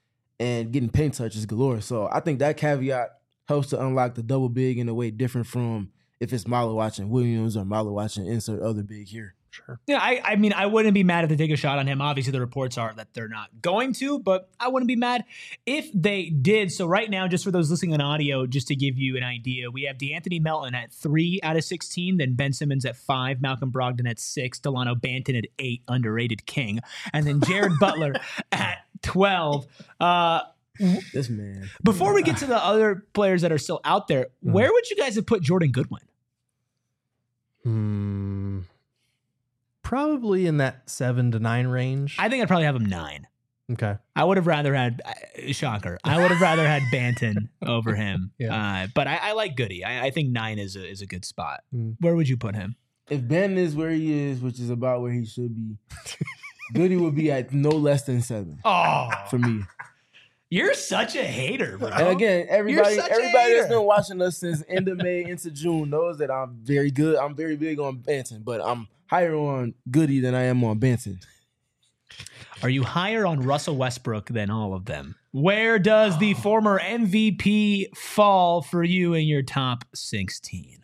and getting paint touches galore. So I think that caveat helps to unlock the double big in a way different from if it's Malawach and Williams or Malawach and insert other big here. Sure. Yeah, I, I mean, I wouldn't be mad if they take a shot on him. Obviously, the reports are that they're not going to, but I wouldn't be mad if they did. So right now, just for those listening on audio, just to give you an idea, we have DeAnthony Melton at three out of sixteen, then Ben Simmons at five, Malcolm Brogdon at six, Delano Banton at eight, underrated king, and then Jared Butler at twelve. Uh, This man. before we get to the other players that are still out there, where would you guys have put Jordan Goodwin? Hmm. Probably in that seven to nine range. I think I'd probably have him nine. okay. I would have rather had uh, shocker. I would have rather had Banton over him. Yeah. Uh, but I, I like Goody. I, I think nine is a is a good spot. Mm. Where would you put him? If Ben is where he is, which is about where he should be, Goody would be at no less than seven Oh, for me. you're such a hater, bro. And again, everybody, such a everybody that's hater. been watching us since end of May into June knows that I'm very good. I'm very big on Banton, but I'm higher on Goody than I am on Banton. Are you higher on Russell Westbrook than all of them? Where does the former M V P fall for you in your top sixteen?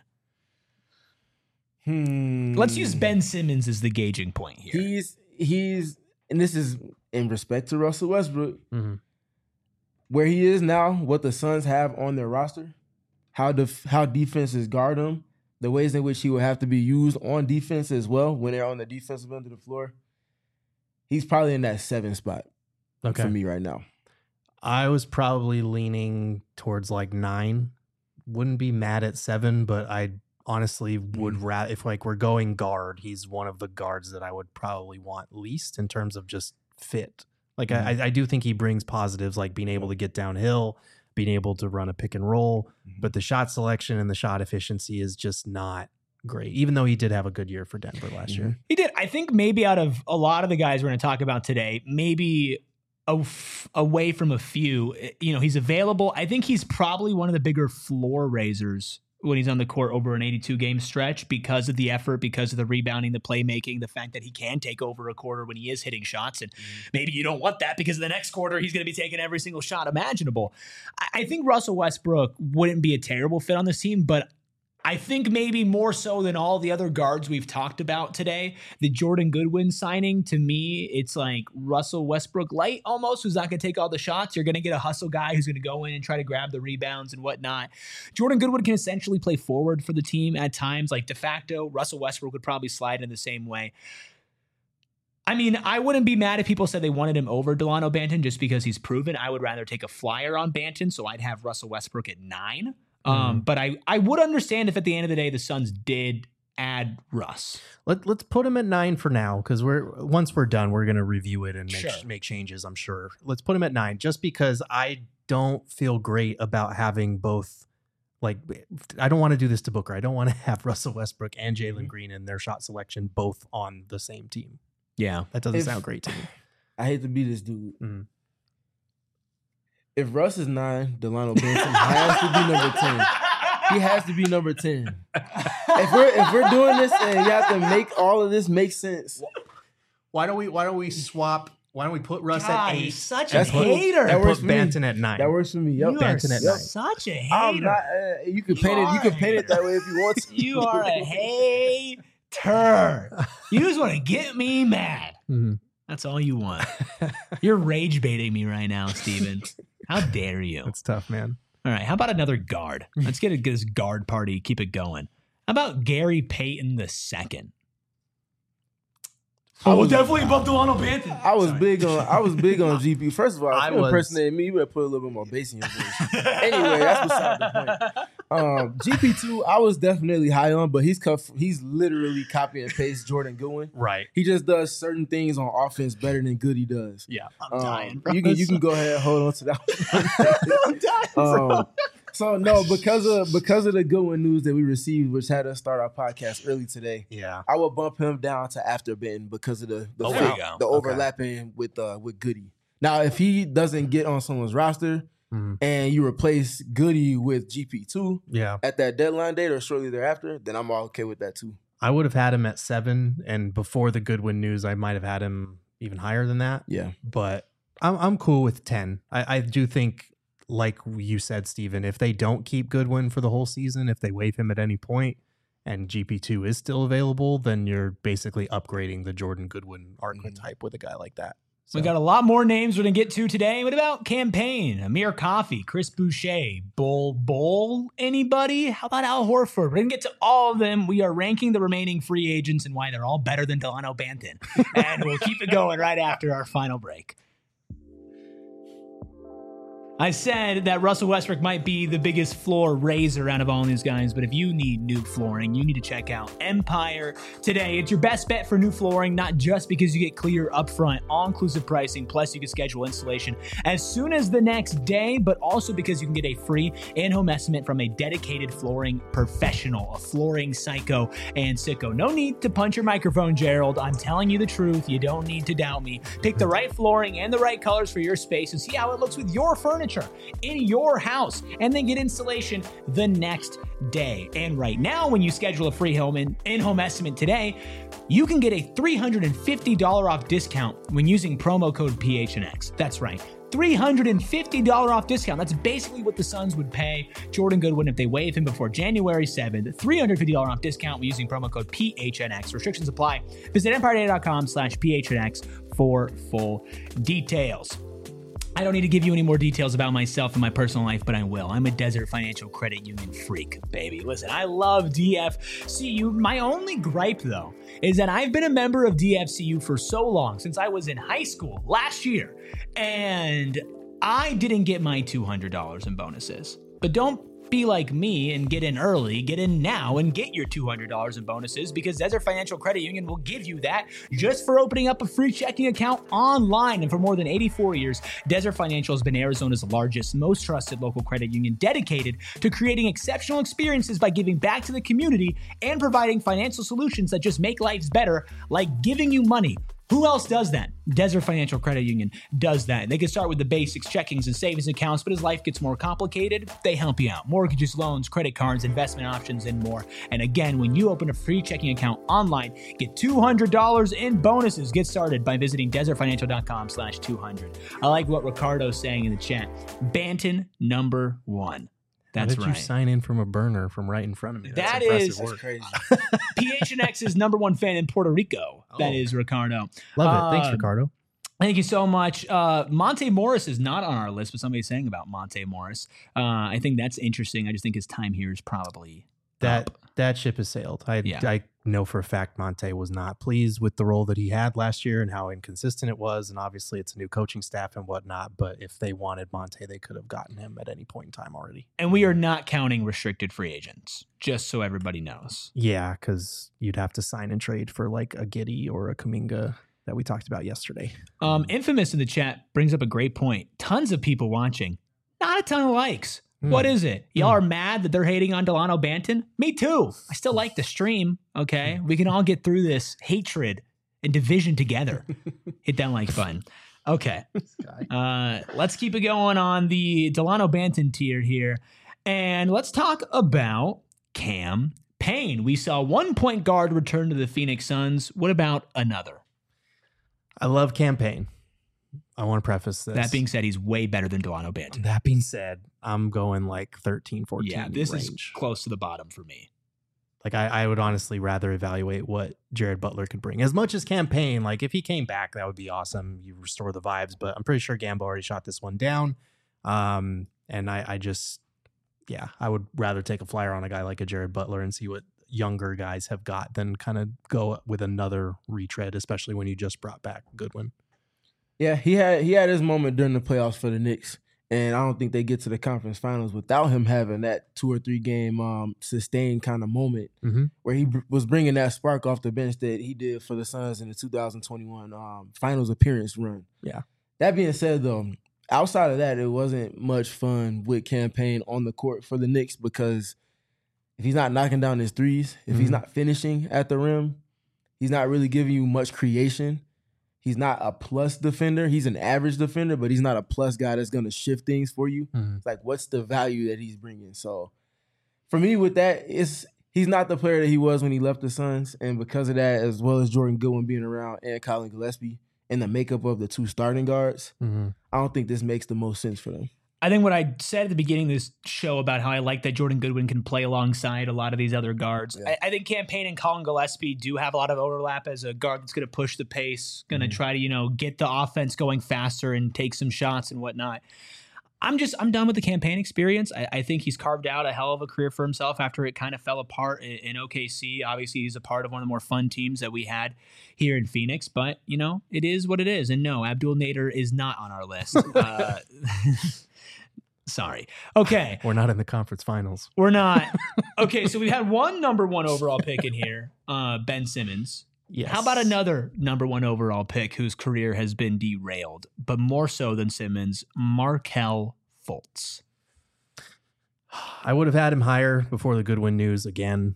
Hmm. Let's use Ben Simmons as the gauging point here. He's he's and this is in respect to Russell Westbrook, hmm where he is now, what the Suns have on their roster, how def- how defenses guard him, the ways in which he will have to be used on defense as well when they're on the defensive end of the floor. He's probably in that seven spot Okay. for me right now. I was probably leaning towards like nine. Wouldn't be mad at seven, but I honestly would rather, if like we're going guard, he's one of the guards that I would probably want least in terms of just fit. Like I, I do think he brings positives like being able to get downhill, being able to run a pick and roll, Mhm. but the shot selection and the shot efficiency is just not great, even though he did have a good year for Denver last year. He did. I think maybe out of a lot of the guys we're going to talk about today, maybe away from a few. You know, he's available. I think he's probably one of the bigger floor raisers when he's on the court over an eighty-two game stretch because of the effort, because of the rebounding, the playmaking, the fact that he can take over a quarter when he is hitting shots. And mm. maybe you don't want that because the next quarter he's going to be taking every single shot imaginable. I, I think Russell Westbrook wouldn't be a terrible fit on this team, but I think maybe more so than all the other guards we've talked about today, the Jordan Goodwin signing, to me, it's like Russell Westbrook light almost, who's not going to take all the shots. You're going to get a hustle guy who's going to go in and try to grab the rebounds and whatnot. Jordan Goodwin can essentially play forward for the team at times, like de facto. Russell Westbrook would probably slide in the same way. I mean, I wouldn't be mad if people said they wanted him over Delano Banton just because he's proven. I would rather take a flyer on Banton, so I'd have Russell Westbrook at nine. Um, mm. But I, I would understand if at the end of the day the Suns did add Russ. Let, let's put him at nine for now, because we're once we're done, we're going to review it and make, sure. make changes, I'm sure. Let's put him at nine, just because I don't feel great about having both. Like, I don't want to do this to Booker. I don't want to have Russell Westbrook and Jalen mm-hmm. Green in their shot selection both on the same team. Yeah, that doesn't if, sound great to me. I hate to be this dude. Mm. If Russ is nine, Delano Banton has to be number ten. He has to be number ten. If we're if we're doing this and you have to make all of this make sense, why don't we why don't we swap? Why don't we put Russ God, at eight? He's such That's a cool. hater. That And works put for Banton me. at nine. That works for me. Yep. You Banton are at nine. such a hater. I'm not, uh, you can You paint it. You are can a paint it that way if you want to. You are a hater. You just want to get me mad. Mm-hmm. That's all you want. You're rage baiting me right now, Steven. How dare you? That's tough, man. All right, how about another guard? Let's get a this guard party. Keep it going. How about Gary Payton the second? I Oh, was- definitely above Delano Banton. I was Sorry. big on I was big on G P. First of all, I if you was- impersonating me, you better put a little bit more bass in your voice. Anyway, that's beside the point. Um, G P two, I was definitely high on, but he's cuff, he's literally copy and paste Jordan Goodwin. Right. He just does certain things on offense better than Goody does. Yeah. I'm Um, dying, bro. you can you can go ahead and hold on to that. I'm dying, bro. Um, so no, because of because of the Goodwin news that we received, which had us start our podcast early today, Yeah. I would bump him down to after Benton because of the the, Oh, fit- there you go. the Okay. overlapping with uh with Goody. Now, if he doesn't get on someone's roster Mhm. and you replace Goody with G P two Yeah. at that deadline date or shortly thereafter, then I'm all okay with that too. I would have had him at seven, and before the Goodwin news, I might have had him even higher than that. Yeah. But I'm I'm cool with ten. I, I do think, like you said, Steven, if they don't keep Goodwin for the whole season, if they waive him at any point, and G P two is still available, then you're basically upgrading the Jordan Goodwin archetype with a guy like that. So, We got a lot more names we're going to get to today. What about Campaign, Amir Coffey, Chris Boucher, Bull Bull? Anybody? How about Al Horford? We're going to get to all of them. We are ranking the remaining free agents and why they're all better than Delano Banton. And we'll keep it going right after our final break. I said that Russell Westbrook might be the biggest floor raiser out of all these guys, but if you need new flooring, you need to check out Empire today. It's your best bet for new flooring, not just because you get clear upfront, all-inclusive pricing, plus you can schedule installation as soon as the next day, but also because you can get a free in-home estimate from a dedicated flooring professional, a flooring psycho and sicko. No need to punch your microphone, Gerald. I'm telling you the truth. You don't need to doubt me. Pick the right flooring and the right colors for your space and see how it looks with your furniture in your house, and then get installation the next day. And right now, when you schedule a free home in, in-home estimate today, you can get a three hundred fifty dollars off discount when using promo code P H N X. That's right. three hundred fifty dollars off discount. That's basically what the Suns would pay Jordan Goodwin if they waive him before January seventh. three hundred fifty dollars off discount when using promo code P H N X. Restrictions apply. Visit empire data dot com slash P H N X for full details. I don't need to give you any more details about myself and my personal life, but I will. I'm a Desert Financial Credit Union freak, baby. Listen, I love D F C U. My only gripe, though, is that I've been a member of D F C U for so long, since I was in high school last year, and I didn't get my two hundred dollars in bonuses. But don't be like me and get in early. Get in now and get your two hundred dollars in bonuses, because Desert Financial Credit Union will give you that just for opening up a free checking account online. And for more than eighty-four years, Desert Financial has been Arizona's largest, most trusted local credit union, dedicated to creating exceptional experiences by giving back to the community and providing financial solutions that just make lives better, like giving you money Who else does that? Desert Financial Credit Union does that. They can start with the basics, checkings and savings accounts, but as life gets more complicated, they help you out. Mortgages, loans, credit cards, investment options, and more. And again, when you open a free checking account online, get two hundred dollars in bonuses. Get started by visiting desertfinancial.com slash 200. I like what Ricardo's saying in the chat. Banton number one. That's How did right. you sign in from a burner from right in front of me? That's That impressive is- work. That's crazy. P H N X's number one fan in Puerto Rico. That Oh. is Ricardo. Love it. Thanks, Uh, Ricardo. Thank you so much. Uh, Monte Morris is not on our list, but somebody's saying about Monte Morris. Uh, I think that's interesting. I just think his time here is probably That up. that ship has sailed. I Yeah. I know for a fact Monte was not pleased with the role that he had last year and how inconsistent it was. And obviously it's a new coaching staff and whatnot. But if they wanted Monte, they could have gotten him at any point in time already. And we are not counting restricted free agents, just so everybody knows. Yeah, because you'd have to sign and trade for like a Giddey or a Kuminga that we talked about yesterday. Um, Infamous in the chat brings up a great point. Tons of people watching. Not a ton of likes. Hmm. What is it? Y'all are mad that they're hating on Delano Banton? Me too. I still like the stream. Okay. We can all get through this hatred and division together. Hit that like button. Okay. Uh, let's keep it going on the Delano Banton tier here. And let's talk about Cam Payne. We saw one point guard return to the Phoenix Suns. What about another? I love campaign. I want to preface this. That being said, he's way better than Delano Banton. that being said, I'm going like thirteen, fourteen Yeah, this range. is close to the bottom for me. Like I, I would honestly rather evaluate what Jared Butler could bring. As much as campaign, like if he came back, that would be awesome. You restore the vibes, but I'm pretty sure Gambo already shot this one down. Um, and I, I just, yeah, I would rather take a flyer on a guy like a Jared Butler and see what younger guys have got than kind of go with another retread, especially when you just brought back Goodwin. Yeah, he had he had his moment during the playoffs for the Knicks, and I don't think they get to the conference finals without him having that two or three game um, sustained kind of moment Mm-hmm. where he br- was bringing that spark off the bench that he did for the Suns in the two thousand twenty-one um, finals appearance run. Yeah. That being said, though, outside of that, it wasn't much fun with campaign on the court for the Knicks because if he's not knocking down his threes, if he's Mhm. not finishing at the rim, he's not really giving you much creation. He's not a plus defender. He's an average defender, but he's not a plus guy that's going to shift things for you. Mhm. It's like, what's the value that he's bringing? So for me with that, it's he's not the player that he was when he left the Suns. And because of that, as well as Jordan Goodwin being around and Colin Gillespie and the makeup of the two starting guards, Mm-hmm. I don't think this makes the most sense for them. I think what I said at the beginning of this show about how I like that Jordan Goodwin can play alongside a lot of these other guards. Yeah. I, I think Cam Payne and Colin Gillespie do have a lot of overlap as a guard that's going to push the pace, going to Mhm. try to, you know, get the offense going faster and take some shots and whatnot. I'm just, I'm done with the campaign experience. I, I think he's carved out a hell of a career for himself after it kind of fell apart in, in O K C. Obviously, he's a part of one of the more fun teams that we had here in Phoenix, but, you know, it is what it is. And no, Abdul Nader is not on our list. uh, sorry. Okay. We're not in the conference finals. We're not. Okay, so we've had one number one overall pick in here, uh, Ben Simmons. Yes. How about another number one overall pick whose career has been derailed, but more so than Simmons, Markelle Fultz? I would have had him higher before the Goodwin news again.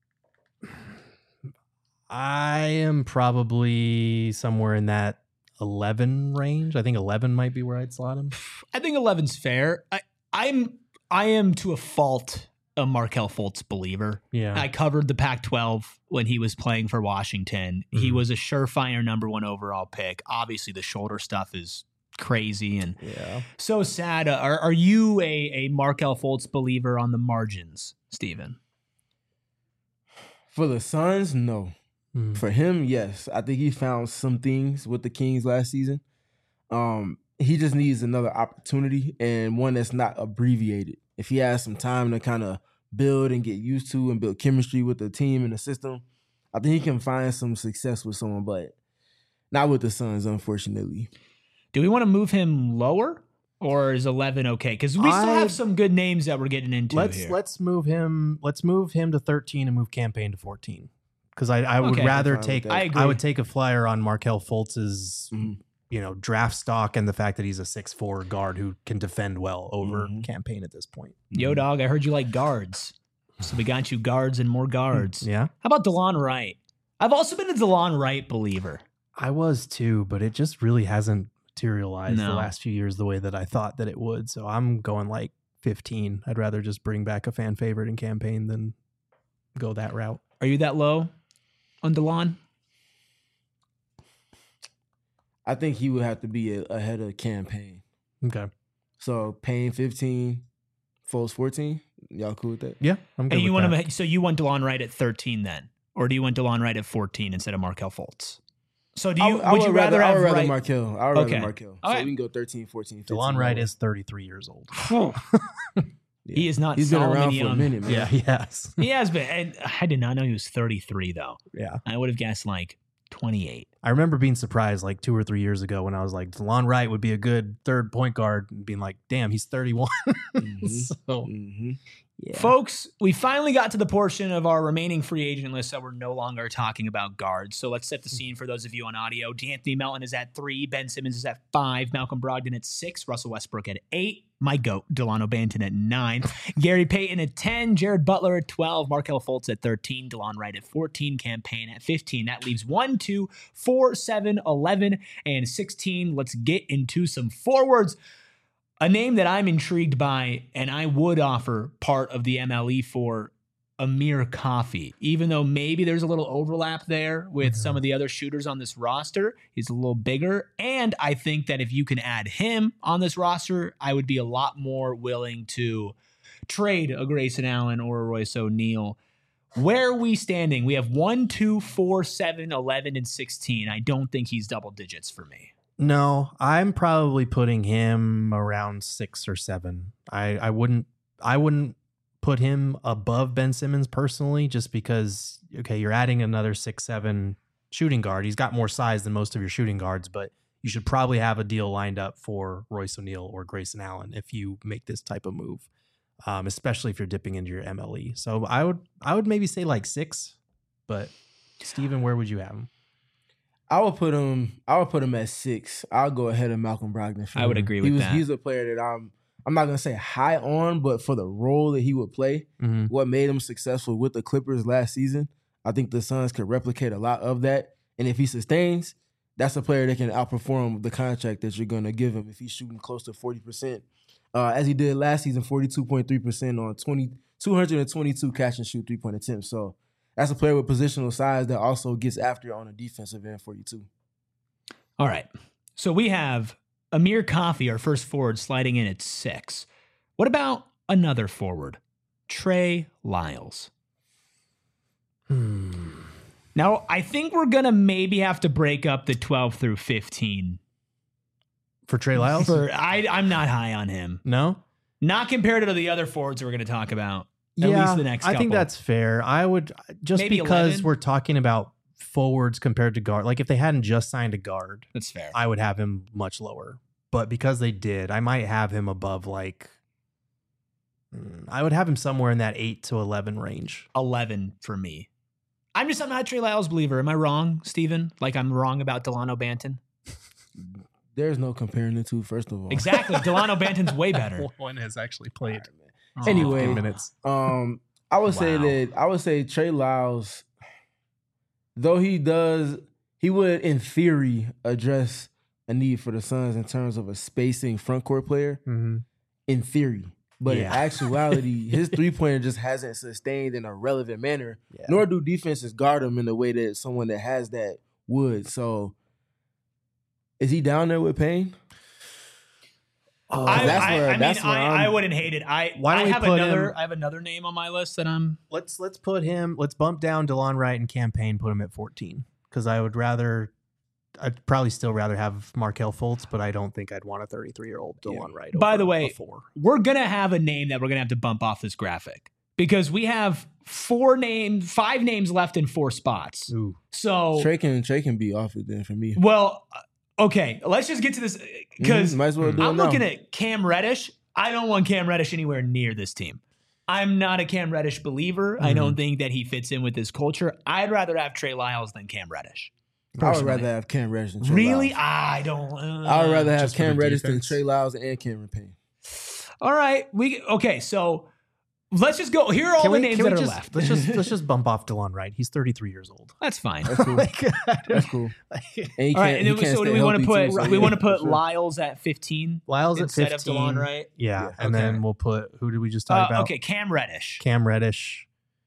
I am probably somewhere in that eleven range. I think eleven might be where I'd slot him. I think eleven's fair. I, I'm I am to a fault a Markelle Fultz believer. Yeah. I covered the Pac twelve when he was playing for Washington. He Mhm. was a surefire number one overall pick. Obviously, the shoulder stuff is crazy and yeah. so sad. Uh, Are are you a a Markelle Fultz believer on the margins, Steven? For the Suns, no. Mhm. For him, yes. I think he found some things with the Kings last season. Um, he just needs another opportunity and one that's not abbreviated. If he has some time to kind of build and get used to and build chemistry with the team and the system, I think he can find some success with someone, but not with the Suns, unfortunately. Do we want to move him lower, or is eleven okay? Because we still I- have some good names that we're getting into Let's here. let's move him. Let's move him to thirteen and move campaign to fourteen. Because I, I would Okay. rather I'm fine with take that. I agree. I would take a flyer on Markelle Fultz's Mhm. you know draft stock and the fact that he's a six four guard who can defend well over Mhm. campaign at this point. Yo, dog, I heard you like guards, so we got you guards and more guards. Yeah. How about DeLon Wright? I've also been a DeLon Wright believer. I was too, but it just really hasn't materialized No. the last few years the way that I thought that it would. So I'm going like fifteen. I'd rather just bring back a fan favorite in campaign than go that route. Are you that low on DeLon? I think he would have to be a, ahead of campaign. Okay. So Payne fifteen, Foles fourteen. Y'all cool with that? Yeah, I'm good And you with want that. him, so you want DeLon Wright at thirteen then? Or do you want DeLon Wright at fourteen instead of Markelle Fultz? So do you, I, I would you rather, I have would rather Wright? Markelle. I would Okay. rather Markelle. All So right. we can go thirteen, fourteen, fifteen. DeLon Wright lower. is thirty-three years old. Yeah. He is not He's been Solomon around for Young. a minute, man. Yeah, he has. He has been. And I did not know he was thirty-three though. Yeah. I would have guessed like twenty-eight. I remember being surprised like two or three years ago when I was like, DeLon Wright would be a good third point guard, and being like, damn, he's thirty-one. Mhm. So, Mm-hmm. yeah. Folks, we finally got to the portion of our remaining free agent list that we're no longer talking about guards. So let's set the scene for those of you on audio. D'Anthony Melton is at three. Ben Simmons is at five. Malcolm Brogdon at six. Russell Westbrook at eight. My goat, Delano Banton at nine. Gary Payton at ten. Jared Butler at twelve. Markelle Fultz at thirteen. DeLon Wright at fourteen. Campaign at fifteen. That leaves one, two, four, seven, eleven, and sixteen. Let's get into some forwards. A name that I'm intrigued by, and I would offer part of the M L E for Amir Coffey, even though maybe there's a little overlap there with Mhm. some of the other shooters on this roster. He's a little bigger. And I think that if you can add him on this roster, I would be a lot more willing to trade a Grayson Allen or a Royce O'Neal. Where are we standing? We have one, two, four, seven, eleven, and sixteen. I don't think he's double digits for me. No, I'm probably putting him around six or seven. I, I wouldn't I wouldn't put him above Ben Simmons personally, just because okay, you're adding another six, seven shooting guard. He's got more size than most of your shooting guards, but you should probably have a deal lined up for Royce O'Neal or Grayson Allen if you make this type of move. Um, especially if you're dipping into your M L E. So I would I would maybe say like six, but Steven, where would you have him? I would put him. I would put him at six. I'll go ahead of Malcolm Brogdon. For I would him. agree he with was, that. He's a player that I'm. I'm not gonna say high on, but for the role that he would play, Mm-hmm. what made him successful with the Clippers last season, I think the Suns could replicate a lot of that. And if he sustains, that's a player that can outperform the contract that you're gonna give him if he's shooting close to forty percent, uh, as he did last season, forty-two point three percent on twenty, two hundred twenty-two catch and shoot three point attempts. So that's a player with positional size that also gets after on the defensive end for you too. All right. So we have Amir Coffey, our first forward, sliding in at six. What about another forward? Trey Lyles. Hmm. Now, I think we're going to maybe have to break up the twelve through fifteen. For Trey Lyles? For, I, I'm not high on him. No? Not compared to the other forwards that we're going to talk about. At Yeah, least the next I couple. think that's fair. I would just Maybe because eleven? we're talking about forwards compared to guard. Like if they hadn't just signed a guard, That's fair. I would have him much lower. But because they did, I might have him above like mm, I would have him somewhere in that eight to eleven range. eleven for me. I'm just I'm not a Trey Lyles believer. Am I wrong, Steven? Like I'm wrong about Delano Banton? There's no comparing the two, first of all. Exactly. Delano Banton's way better. One has actually played Anyway, fifteen minutes. Um, I would say Wow. that I would say Trey Lyles, though he does, he would in theory address a need for the Suns in terms of a spacing front court player. Mm-hmm. In theory, but Yeah. in actuality, his three pointer just hasn't sustained in a relevant manner. Yeah. Nor do defenses guard him in the way that someone that has that would. So, is he down there with Payne? Oh, I, that's I, where- I mean, that's where I, I'm- I wouldn't hate it. I Why don't I we have put another. him- I have another name on my list that I'm. let's let's put him. Let's bump down DeLon Wright and campaign. Put him at fourteen because I would rather. I'd probably still rather have Markelle Fultz, but I don't think I'd want a thirty-three year old DeLon Wright. By over the way, a four. We're gonna have a name that we're gonna have to bump off this graphic because we have four names, five names left in four spots. Ooh. So, Trey can Trey can be off it then for me. well, uh, okay. Let's just get to this because Mhm, might as well do it I'm now. looking at Cam Reddish. I don't want Cam Reddish anywhere near this team. I'm not a Cam Reddish believer. I Mhm. don't think that he fits in with this culture. I'd rather have Trey Lyles than Cam Reddish. I would personally. rather have Cam Reddish than Trey Really? Lyles. I don't. Uh, I would rather have Just for Cam the Reddish than defense? Trey Lyles and Cameron Payne. All right. We okay. So Let's just go. Here are all Can the we- names can we that are just, left. Let's just let's just bump off DeLon Wright. He's thirty-three years old. That's fine. That's cool. Like, That's cool. And he All right, can't- and he then, can't so do stay we want to healthy put too, so we yeah, want to put for sure. Lyles at fifteen Lyles at instead fifteen. of DeLon Wright? Yeah, Yeah. and Okay. then we'll put who did we just talk Uh, about? okay, Cam Reddish. Cam Reddish.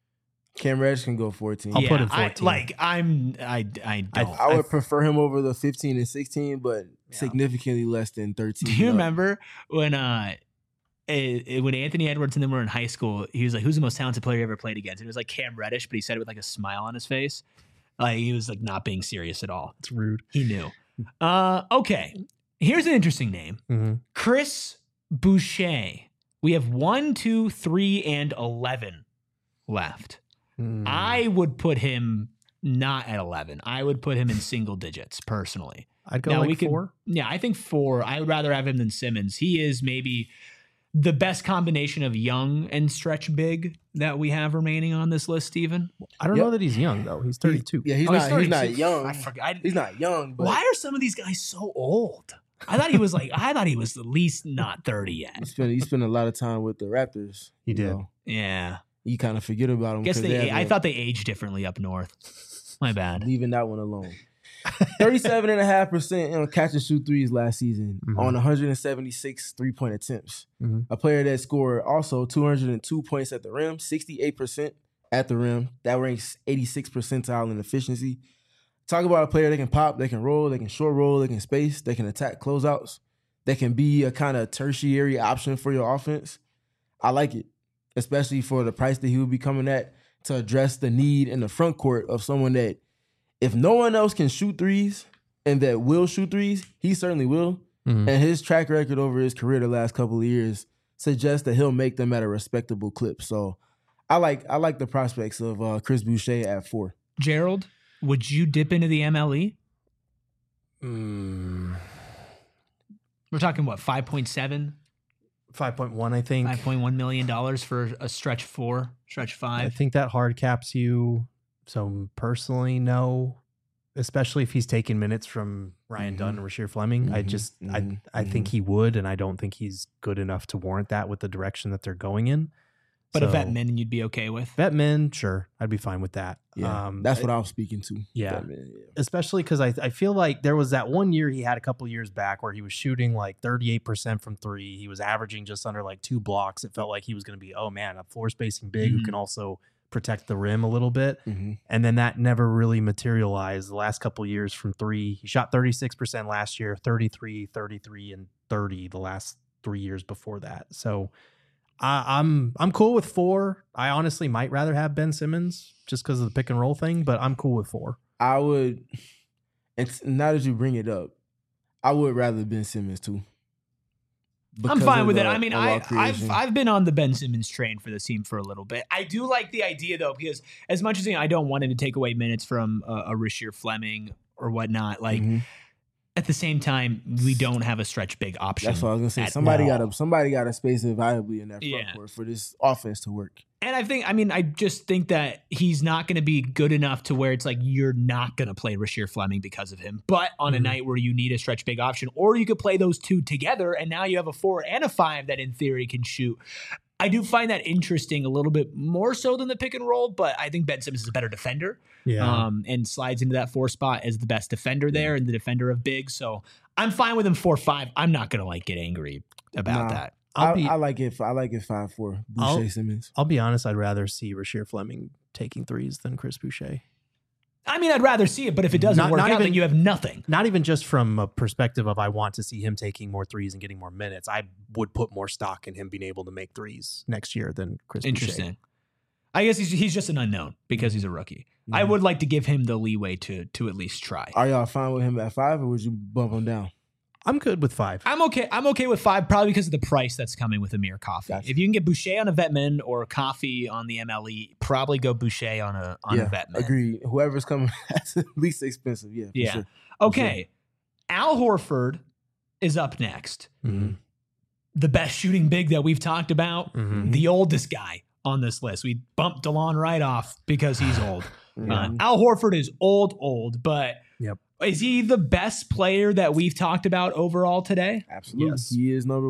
Cam Reddish can go fourteen. I'll yeah, put him I, fourteen. like I'm, I, I I- don't. I would prefer him over the fifteen and sixteen, but Yeah. significantly less than thirteen. Do you No. remember when uh it, it- when Anthony Edwards and them were in high school? He was like, "Who's the most talented player you ever played against?" And it was like Cam Reddish, but he said it with like a smile on his face, like he was like not being serious at all. It's rude. He knew. Uh, okay, here's an interesting name: Mm-hmm. Chris Boucher. We have one, two, three, and eleven left. Mm. I would put him not at eleven. I would put him in single digits personally. I'd go Now, like we could- four. Yeah, I think four. I would rather have him than Simmons. He is maybe the best combination of young and stretch big that we have remaining on this list, Steven. I don't Yep. know that he's young though. He's thirty-two. Yeah, he's Oh, not. He's, not thirty-two. young. I forgot. He's not young. But Why are some of these guys so old? I thought he was like, I thought he was at least not thirty yet. He spent he spent a lot of time with the Raptors. He you did. know. Yeah. You kind of forget about him. Guess 'cause they, have I a- thought they aged differently up north. My bad. leaving that one alone. thirty-seven point five percent on catch and shoot threes last season Mhm. on one hundred seventy-six three-point attempts. Mhm. A player that scored also two hundred two points at the rim, sixty-eight percent at the rim. That ranks eighty-six percentile in efficiency. Talk about a player that can pop, they can roll, they can short roll, they can space, they can attack closeouts. They can be a kind of tertiary option for your offense. I like it, especially for the price that he would be coming at to address the need in the front court of someone that, if no one else can shoot threes and that will shoot threes, he certainly will. Mhm. And his track record over his career the last couple of years suggests that he'll make them at a respectable clip. So I like I like the prospects of uh, Chris Boucher at four. Gerald, would you dip into the M L E? Mm, We're talking what, five point seven, five point one, I think. five point one million dollars for a stretch four, stretch I five. think that hard caps you. So personally, no. Especially if he's taking minutes from Ryan Mhm. Dunn and Rasheer Fleming. I Mhm, just mhm, I I think he would, and I don't think he's good enough to warrant that with the direction that they're going in. But a So, vet min you'd be okay with. vet men, sure, I'd be fine with that. Yeah, Um, that's what I was speaking to. yeah. That man, yeah. especially because I, I feel like there was that one year he had a couple years back where he was shooting like thirty-eight percent from three. He was averaging just under like two blocks. It felt like he was going to be, oh man, a floor spacing big who Mhm. can also protect the rim a little bit. Mhm. And then that never really materialized the last couple years from three. He shot thirty-six percent last year, thirty-three, thirty-three, and thirty the last three years before that. So I, I'm I'm cool with four. I honestly might rather have Ben Simmons just because of the pick and roll thing, but I'm cool with four. I would, and s- now that you bring it up, I would rather Ben Simmons too. I'm Because fine of with it. the I mean, overall I, I've creation. I've been on the Ben Simmons train for this team for a little bit. I do like the idea though, because as much as you know, I don't want him to take away minutes from uh, a Rasheer Fleming or whatnot, like Mhm. at the same time, we don't have a stretch big option. That's what I was gonna say. at Somebody all. got to somebody got to space it viably in that front Yeah. court for this offense to work. And I think, I mean, I just think that he's not going to be good enough to where it's like you're not going to play Rasheer Fleming because of him. But on a Mhm. night where you need a stretch big option, or you could play those two together, and now you have a four and a five that in theory can shoot. I do find that interesting a little bit more so than the pick and roll, but I think Ben Simmons is a better defender um, and slides into that four spot as the best defender there and the defender of big. So I'm fine with him four five. I'm not going to like get angry about Nah. that. I'll I, be I like it. I like it five four. I'll- Boucher Simmons. I'll be honest, I'd rather see Rasheer Fleming taking threes than Chris Boucher. I mean, I'd rather see it, but if it doesn't Not- work not out, even- then you have nothing. Not even just from a perspective of I want to see him taking more threes and getting more minutes. I would put more stock in him being able to make threes next year than Chris Boucher. Interesting. I guess he's he's just an unknown because he's a rookie. I Mhm. would like to give him the leeway to to at least try. Are y'all fine with him at five, or would you bump him down? I'm good with five. I'm okay. I'm okay with five, probably because of the price that's coming with Amir Coffee. Gotcha. If you can get Boucher on a Vetman or Coffee on the M L E, probably go Boucher on a on yeah, a Vetman. agreed. Whoever's coming, that's at least expensive. Yeah, for Yeah. sure. Okay, Al Horford is up next. Mhm. The best shooting big that we've talked about. Mhm. The oldest guy on this list. We bumped DeLon right off because he's old. Uh, Yeah. Al Horford is old, old, but Yep. is he the best player that we've talked about overall today? Absolutely, Yes. he is number one.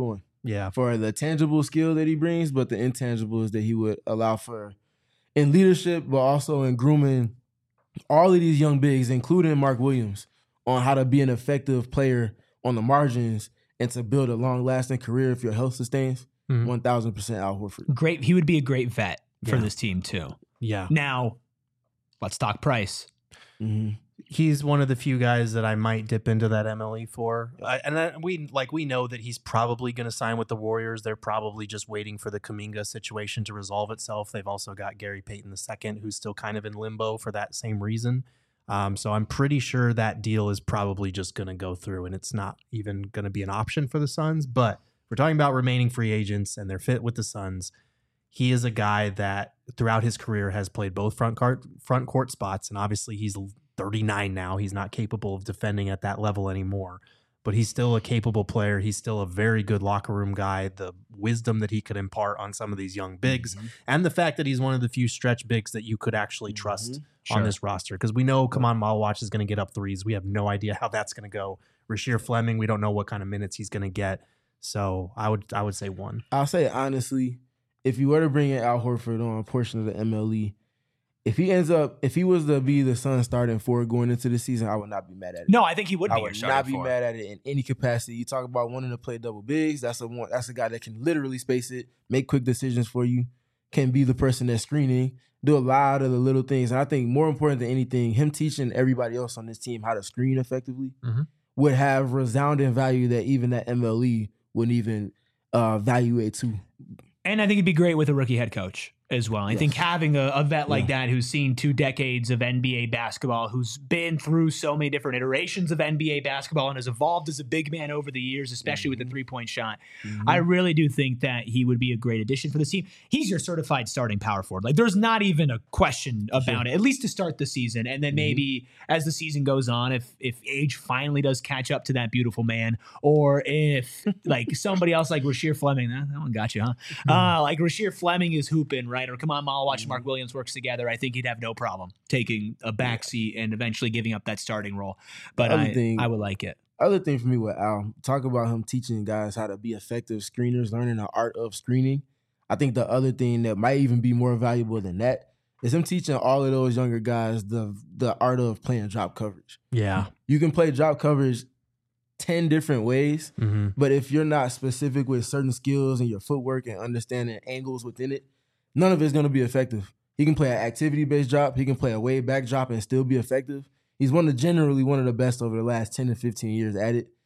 Yeah. for the tangible skill that he brings, but the intangibles that he would allow for in leadership, but also in grooming all of these young bigs, including Mark Williams, on how to be an effective player on the margins and to build a long-lasting career if your health sustains. Mhm. one thousand percent Al Horford. Great. He would be a great vet for Yeah. this team too. Yeah. Now, let's talk price. Mm-hmm. He's one of the few guys that I might dip into that M L E for. I, and I, we like we know that he's probably going to sign with the Warriors. They're probably just waiting for the Kuminga situation to resolve itself. They've also got Gary Payton the second, who's still kind of in limbo for that same reason. Um, so I'm pretty sure that deal is probably just going to go through, and it's not even going to be an option for the Suns. But we're talking about remaining free agents and their fit with the Suns. He is a guy that throughout his career has played both front court front court spots, and obviously he's thirty-nine now. He's not capable of defending at that level anymore, but he's still a capable player. He's still a very good locker room guy. The wisdom that he could impart on some of these young bigs, Mm-hmm. and the fact that he's one of the few stretch bigs that you could actually trust Mm-hmm. Sure. on this roster, because we know Kaman Malawach is going to get up threes. We have no idea how that's going to go. Rasheer Fleming, we don't know what kind of minutes he's going to get. So I would I would say one. I'll say honestly, if you were to bring in Al Horford on a portion of the M L E, if he ends up, if he was to be the Suns starting four going into the season, I would not be mad at it. No, I think he would I be your would starting not be four. mad at it in any capacity. You talk about wanting to play double bigs. That's a one. That's a guy that can literally space it, make quick decisions for you, can be the person that's screening, do a lot of the little things. And I think more important than anything, him teaching everybody else on this team how to screen effectively Mhm. would have resounding value that even that M L E wouldn't even uh, evaluate to. And I think it'd be great with a rookie head coach as well. I Yes. think having a, a vet like Yeah. that who's seen two decades of N B A basketball, who's been through so many different iterations of N B A basketball and has evolved as a big man over the years, especially with the three-point shot. I really do think that he would be a great addition for this team. He's your certified starting power forward. Like, there's not even a question about it, at least to start the season. And then maybe as the season goes on, if if age finally does catch up to that beautiful man, or if like somebody else like Rasheer Fleming, that, that one got you, huh? Uh, like Rasheer Fleming is hooping, right? Or come on, Malawach and Mark Williams works together. I think he'd have no problem taking a backseat and eventually giving up that starting role. But Other I, thing- I would like it. Other thing for me with Al, talk about him teaching guys how to be effective screeners, learning the art of screening. I think the other thing that might even be more valuable than that is him teaching all of those younger guys the the art of playing drop coverage. Yeah. You can play drop coverage ten different ways, Mm-hmm. but if you're not specific with certain skills and your footwork and understanding angles within it, none of it's going to be effective. He can play an activity-based drop. He can play a way back drop and still be effective. He's one of generally one of the best over the last ten to fifteen years at it.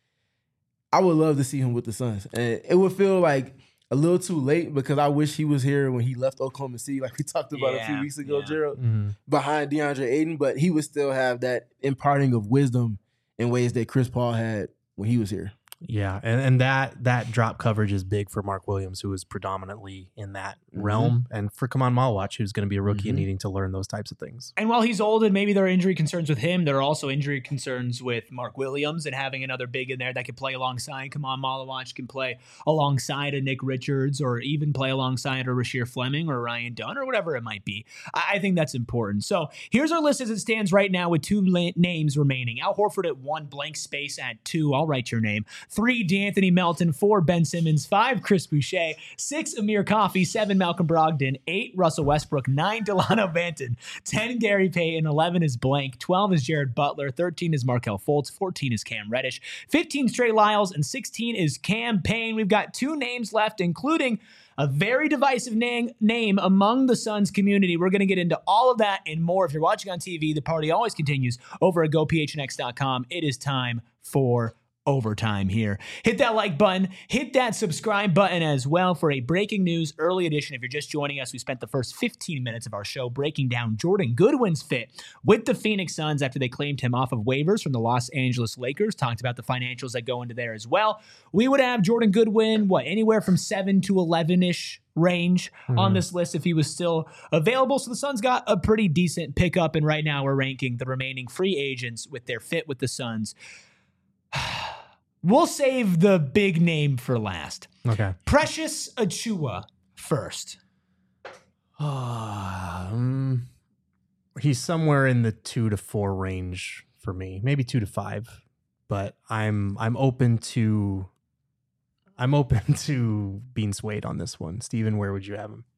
I would love to see him with the Suns. And it would feel like a little too late because I wish he was here when he left Oklahoma City, like we talked about a few Yeah, weeks ago, yeah. Gerald, Mm-hmm. behind DeAndre Ayton, but he would still have that imparting of wisdom in ways that Chris Paul had when he was here. Yeah, and, and that that drop coverage is big for Mark Williams, who is predominantly in that Mhm. realm, and for Kaman Malawach, who's going to be a rookie and Mhm. needing to learn those types of things. And while he's old and maybe there are injury concerns with him, there are also injury concerns with Mark Williams, and having another big in there that could play alongside Kaman Malawach, can play alongside a Nick Richards, or even play alongside a Rasheer Fleming or Ryan Dunn or whatever it might be. I, I think that's important. So here's our list as it stands right now with two la- names remaining. Al Horford at one, blank space at two. I'll write your name. Three, D'Anthony Melton. Four, Ben Simmons. Five, Chris Boucher. Six, Amir Coffey. Seven, Malcolm Brogdon. Eight, Russell Westbrook. Nine, Delano Banton. Ten, Gary Payton. Eleven is blank. Twelve is Jared Butler. Thirteen is Markelle Fultz. Fourteen is Cam Reddish. Fifteen, Trey Lyles. And sixteen is Cam Payne. We've got two names left, including a very divisive name, name among the Suns community. We're going to get into all of that and more. If you're watching on T V, the party always continues over at go p h n x dot com. It is time for overtime here. Hit that like button, hit that subscribe button as well for a breaking news early edition. If you're just joining us, we spent the first fifteen minutes of our show breaking down Jordan Goodwin's fit with the Phoenix Suns after they claimed him off of waivers from the Los Angeles Lakers. Talked about the financials that go into there as well. We would have Jordan Goodwin, what, anywhere from seven to eleven-ish range on this list if he was still available. So the Suns got a pretty decent pickup, and right now we're ranking the remaining free agents with their fit with the Suns. We'll save the big name for last. Okay. Precious Achiuwa first. um, he's somewhere in the two to four range for me, maybe two to five. But I'm I'm open to I'm open to being swayed on this one. Steven, where would you have him?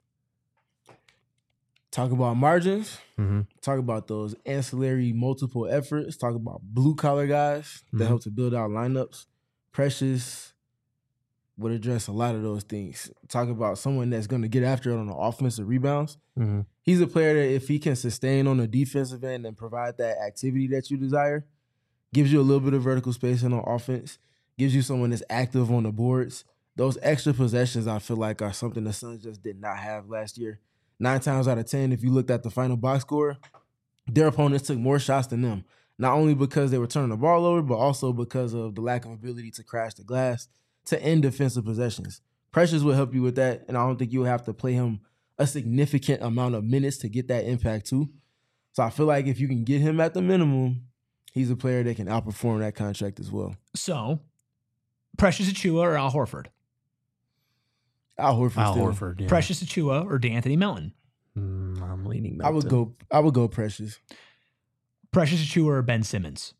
Talk about margins. Mm-hmm. Talk about those ancillary multiple efforts. Talk about blue collar guys that Mhm. help to build out lineups. Precious would address a lot of those things. Talk about someone that's going to get after it on the offensive rebounds. Mm-hmm. He's a player that if he can sustain on the defensive end and provide that activity that you desire, gives you a little bit of vertical spacing on offense, gives you someone that's active on the boards. Those extra possessions, I feel like, are something the Suns just did not have last year. Nine times out of ten, if you looked at the final box score, their opponents took more shots than them. Not only because they were turning the ball over, but also because of the lack of ability to crash the glass to end defensive possessions. Precious will help you with that, and I don't think you'll have to play him a significant amount of minutes to get that impact too. So I feel like if you can get him at the minimum, he's a player that can outperform that contract as well. So, Precious Achiuwa or Al Horford? Al Horford. Al still. Horford. Yeah. Precious Achiuwa or DeAnthony Melton? Mm, I'm leaning. I would Melton. go. I would go Precious. Precious Achiuwa or Ben Simmons?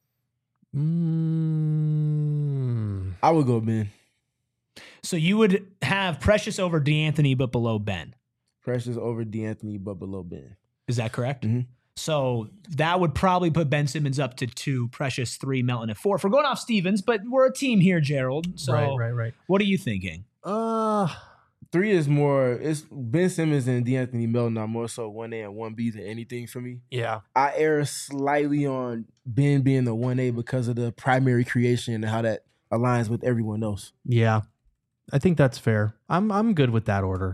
Mm, I would go Ben. So you would have Precious over DeAnthony but below Ben. Precious over DeAnthony, but below Ben. Is that correct? Mhm. So that would probably put Ben Simmons up to two, Precious three, Melton at four. If we're going off Stevens, but we're a team here, Gerald. So right, right, right. what are you thinking? Uh, Three is more. It's Ben Simmons and DeAnthony Melton are more so one A and one B than anything for me. yeah. I err slightly on Ben being the one A because of the primary creation and how that aligns with everyone else. Yeah. I think that's fair. I'm I'm good with that order.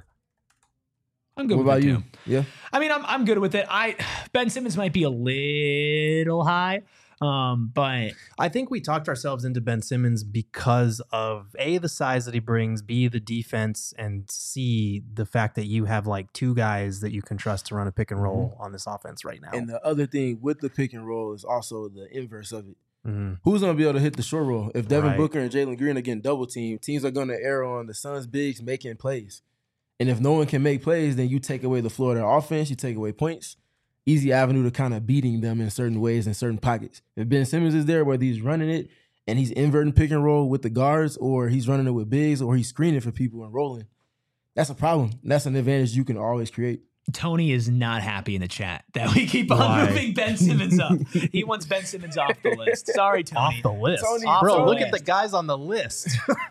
I'm good What with about it you? too. Yeah. I mean, I'm I'm good with it. I Ben Simmons might be a little high, um, but I think we talked ourselves into Ben Simmons because of A, the size that he brings, B, the defense, and C, the fact that you have like two guys that you can trust to run a pick and roll on this offense right now. And the other thing with the pick and roll is also the inverse of it. Mhm. Who's going to be able to hit the short roll? If Devin Right. Booker and Jalen Green are getting double teamed, teams are going to err on the Suns' bigs making plays. And if no one can make plays, then you take away the floor of their offense, you take away points. Easy avenue to kind of beating them in certain ways in certain pockets. If Ben Simmons is there, whether he's running it and he's inverting pick and roll with the guards, or he's running it with bigs, or he's screening for people and rolling, that's a problem. That's an advantage you can always create. Tony is not happy in the chat that we keep on Why? moving Ben Simmons up. He wants Ben Simmons off the list. Sorry, Tony. Off the list. Tony- Off Bro, the look list. at the guys on the list.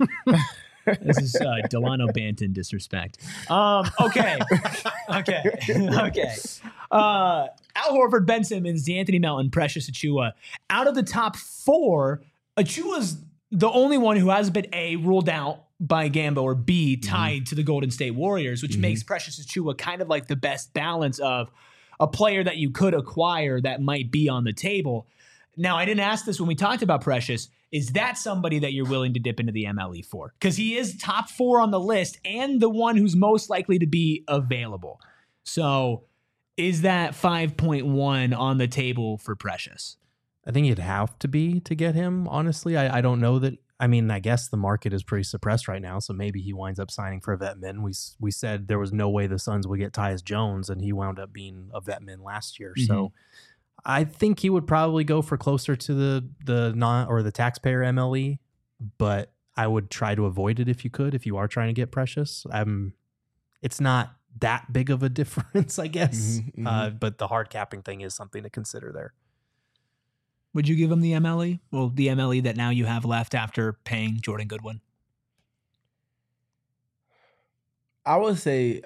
This is uh, Delano Banton disrespect. Um, okay. okay. okay. Uh, Al Horford, Ben Simmons, DeAnthony Melton, Precious Achiuwa. Out of the top four, Achiuwa's the only one who hasn't been A, ruled out by Gambo, or B, tied Mm-hmm. to the Golden State Warriors, which Mhm. makes Precious Achiuwa kind of like the best balance of a player that you could acquire that might be on the table. Now, I didn't ask this when we talked about Precious. Is that somebody that you're willing to dip into the M L E for? Because he is top four on the list and the one who's most likely to be available. So is that five point one on the table for Precious? I think it'd have to be to get him, honestly. I, I don't know that. I mean, I guess the market is pretty suppressed right now, so maybe he winds up signing for a vet min. We s- we said there was no way the Suns would get Tyus Jones, and he wound up being a vet min last year. So I think he would probably go for closer to the the non or the taxpayer M L E, but I would try to avoid it if you could, if you are trying to get Precious. Um, it's not that big of a difference, I guess. Mhm, mhm. Uh, but the hard capping thing is something to consider there. Would you give him the M L E? Well, the M L E that now you have left after paying Jordan Goodwin. I would say,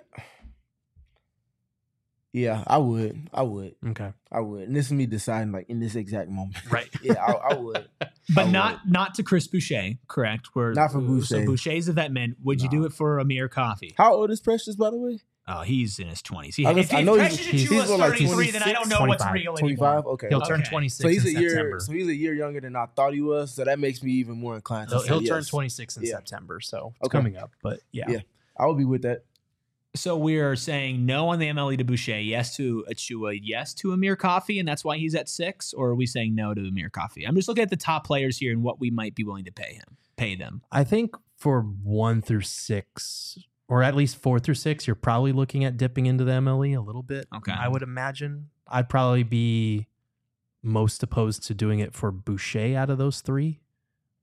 yeah, I would. I would. Okay. I would. And this is me deciding, like, in this exact moment. Right. Yeah, I, I would. But I not not to Chris Boucher, correct? Where, Not for So Boucher. Boucher's a vet man. Would you No. do it for Amir Coffee? How old is Precious, by the way? Oh, he's in his twenties. He, I if, was- if I know he's- Precious he's- Achiuwa's he's what, like thirty-three, then I don't know what's twenty-six, real twenty-five? anymore. Okay. He'll okay. turn Okay. twenty-six So he's in a year. September. So he's a year younger than I thought he was. So that makes me even more inclined to He'll, say he'll turn yes. twenty-six in Yeah. September, so it's Okay. coming up. But yeah, Yeah. I would be with that. So we're saying no on the M L E to Boucher, yes to Achiuwa, yes to Amir Coffee, and that's why he's at six? Or are we saying no to Amir Coffee? I'm just looking at the top players here and what we might be willing to pay him, pay them. I think for one through six, or at least four through six, you're probably looking at dipping into the M L E a little bit. Okay. I would imagine. I'd probably be most opposed to doing it for Boucher out of those three.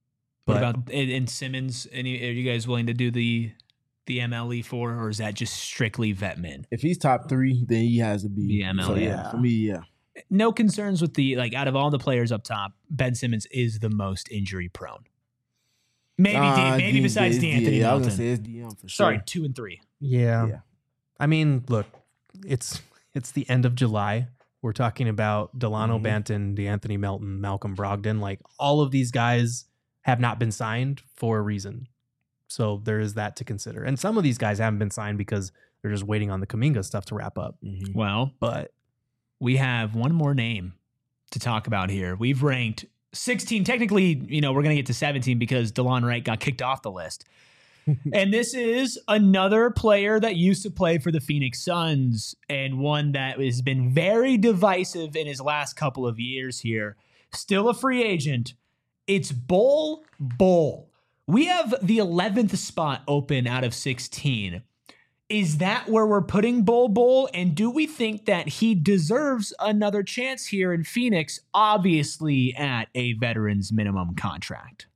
What But about in, in Simmons? Any, are you guys willing to do the the M L E for, or is that just strictly vet min? If he's top three, then he has to be. The M L E, So, yeah, yeah. for me, yeah. No concerns with the, like, out of all the players up top, Ben Simmons is the most injury prone. Maybe Uh, D, maybe D- besides D- D'Anthony yeah, I was Melton. gonna say it's D M for sure. Sorry, two and three. yeah. Yeah. I mean, look, it's it's the end of July. We're talking about Delano Mhm. Banton, DeAnthony Melton, Malcolm Brogdon. Like all of these guys have not been signed for a reason. So there is that to consider. And some of these guys haven't been signed because they're just waiting on the Kuminga stuff to wrap up. Mhm. Well, But we have one more name to talk about here. We've ranked sixteen. Technically, you know, we're going to get to seventeen because DeLon Wright got kicked off the list. And this is another player that used to play for the Phoenix Suns and one that has been very divisive in his last couple of years here. Still a free agent. It's Bol Bol. We have the eleventh spot open out of sixteen. Is that where we're putting Bol Bol? And do we think that he deserves another chance here in Phoenix, obviously at a veteran's minimum contract?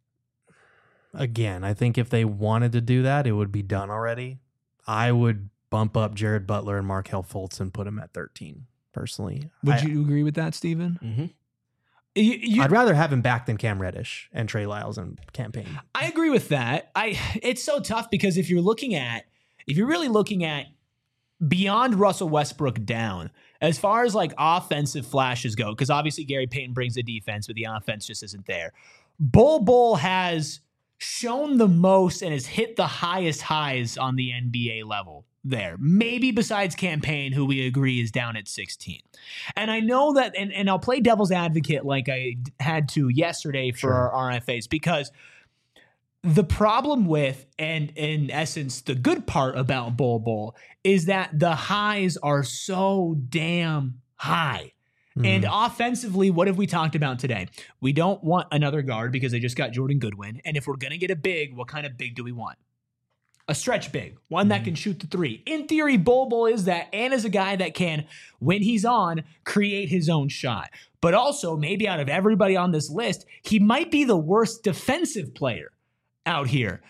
again, I think if they wanted to do that, it would be done already. I would bump up Jared Butler and Markelle Fultz and put him at thirteen, personally. Would I, you agree with that, Steven? Mm-hmm. You, you, I'd rather have him back than Cam Reddish and Trey Lyles and campaign. I agree with that. I it's so tough because if you're looking at if you're really looking at beyond Russell Westbrook down, as far as like offensive flashes go, because obviously Gary Payton brings the defense, but the offense just isn't there. Bol Bol has shown the most and has hit the highest highs on the N B A level there. Maybe besides campaign, who we agree is down at sixteen. And I know that, and, and I'll play devil's advocate like I had to yesterday for Sure. our R F As, because the problem with, and in essence, the good part about Bol Bol is that the highs are so damn high. And Mm. offensively, what have we talked about today? We don't want another guard because they just got Jordan Goodwin. And if we're going to get a big, what kind of big do we want? A stretch big, one that can shoot the three. In theory, Bol Bol is that, and is a guy that can, when he's on, create his own shot. But also, maybe out of everybody on this list, he might be the worst defensive player out here.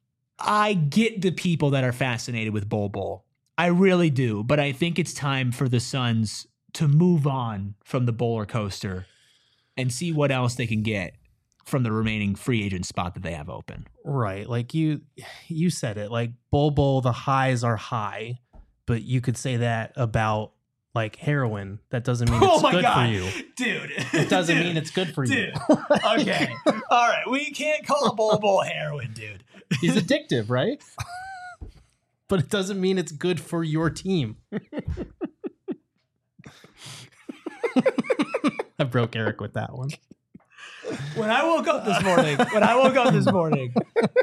I get the people that are fascinated with Bol Bol. I really do. But I think it's time for the Suns to move on from the roller coaster and see what else they can get from the remaining free agent spot that they have open. Right. Like you you said it. Like Bol Bol, the highs are high, but you could say that about like heroin. That doesn't mean it's good for you. Dude. It doesn't Dude. mean it's good for you. Dude. Okay. All right. We can't call Bol Bol heroin, dude. He's addictive, right? But it doesn't mean it's good for your team. I broke Eric with that one. When I woke up this morning, when I woke up this morning,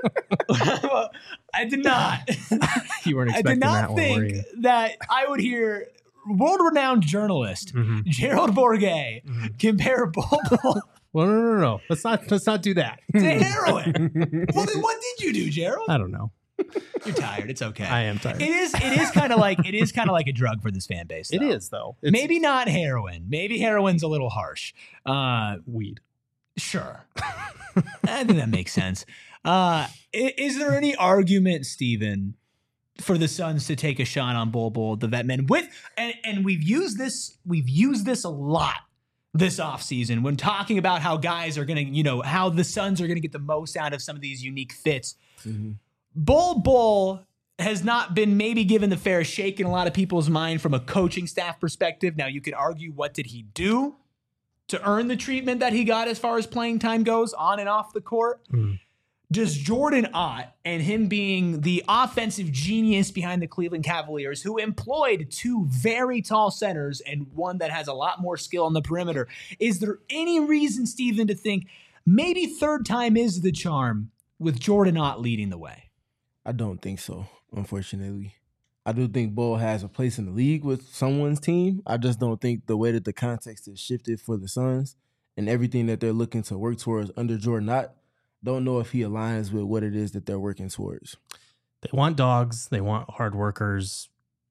I did not. You weren't I expecting did not that one, were think you? that I would hear world-renowned journalist Mhm. Gerald Bourguet Mhm. compare Bol Bol Well, no, no, no, no. Let's not. Let's not do that. to heroin. Well, then what did you do, Gerald? I don't know. You're tired. It's okay. I am tired. It is. It is kind of like it is kind of like a drug for this fan base. It though. is though. It's Maybe not heroin. Maybe heroin's a little harsh. Uh, weed. Sure. I think that makes sense. Uh, i- is there any argument, Steven, for the Suns to take a shot on Bol Bol, the vet men, with and, and we've used this, we've used this a lot this offseason when talking about how guys are gonna, you know, how the Suns are gonna get the most out of some of these unique fits. Mm-hmm. Bol Bol has not been maybe given the fair shake in a lot of people's mind from a coaching staff perspective. Now you could argue, what did he do to earn the treatment that he got as far as playing time goes on and off the court? Mm. Does Jordan Ott and him being the offensive genius behind the Cleveland Cavaliers, who employed two very tall centers and one that has a lot more skill on the perimeter, is there any reason, Steven, to think maybe third time is the charm with Jordan Ott leading the way? I don't think so, unfortunately. I do think Bol has a place in the league with someone's team. I just don't think the way that the context is shifted for the Suns and everything that they're looking to work towards under Jordan Knott, don't know if he aligns with what it is that they're working towards. They want dogs. They want hard workers.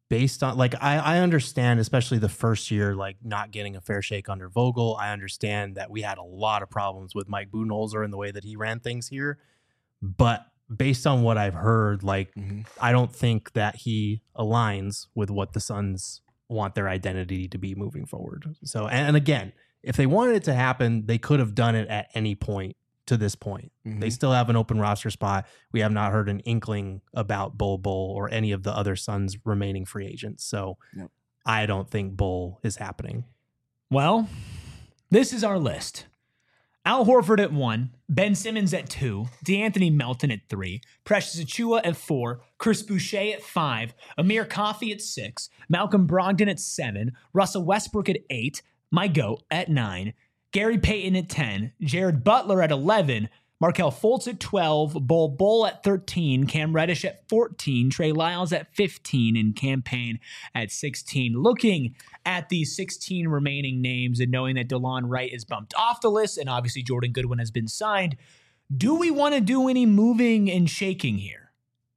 based on like I, I understand, especially the first year, like not getting a fair shake under Vogel. I understand that we had a lot of problems with Mike Budenholzer and the way that he ran things here. But based on what I've heard, like Mhm. I don't think that he aligns with what the Suns want their identity to be moving forward. So, and, and again, if they wanted it to happen, they could have done it at any point to this point. Mhm. They still have an open roster spot. We have not heard an inkling about Bull Bull or any of the other Suns remaining free agents. So Yep. I don't think Bull is happening. Well, this is our list. Al Horford at one, Ben Simmons at two, DeAnthony Melton at three, Precious Achiuwa at four, Chris Boucher at five, Amir Coffey at six, Malcolm Brogdon at seven, Russell Westbrook at eight, my GOAT at nine, Gary Payton at ten, Jared Butler at eleven, Markelle Fultz at twelve, Bol Bol at thirteen, Cam Reddish at fourteen, Trey Lyles at fifteen, and Cam Payne at sixteen. Looking at these sixteen remaining names and knowing that DeLon Wright is bumped off the list and obviously Jordan Goodwin has been signed, do we want to do any moving and shaking here?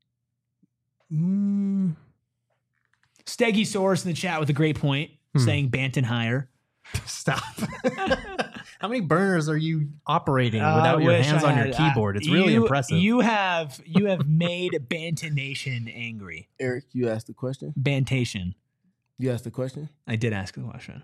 Mm. Steggy Source in the chat with a great point, Hmm. saying Banton higher. Stop. How many burners are you operating Uh, without I your wish hands I on your had- keyboard? It's really you- impressive. You have you have made Banton Nation angry. Eric, you asked the question. Bantation. You asked the question. I did ask the question.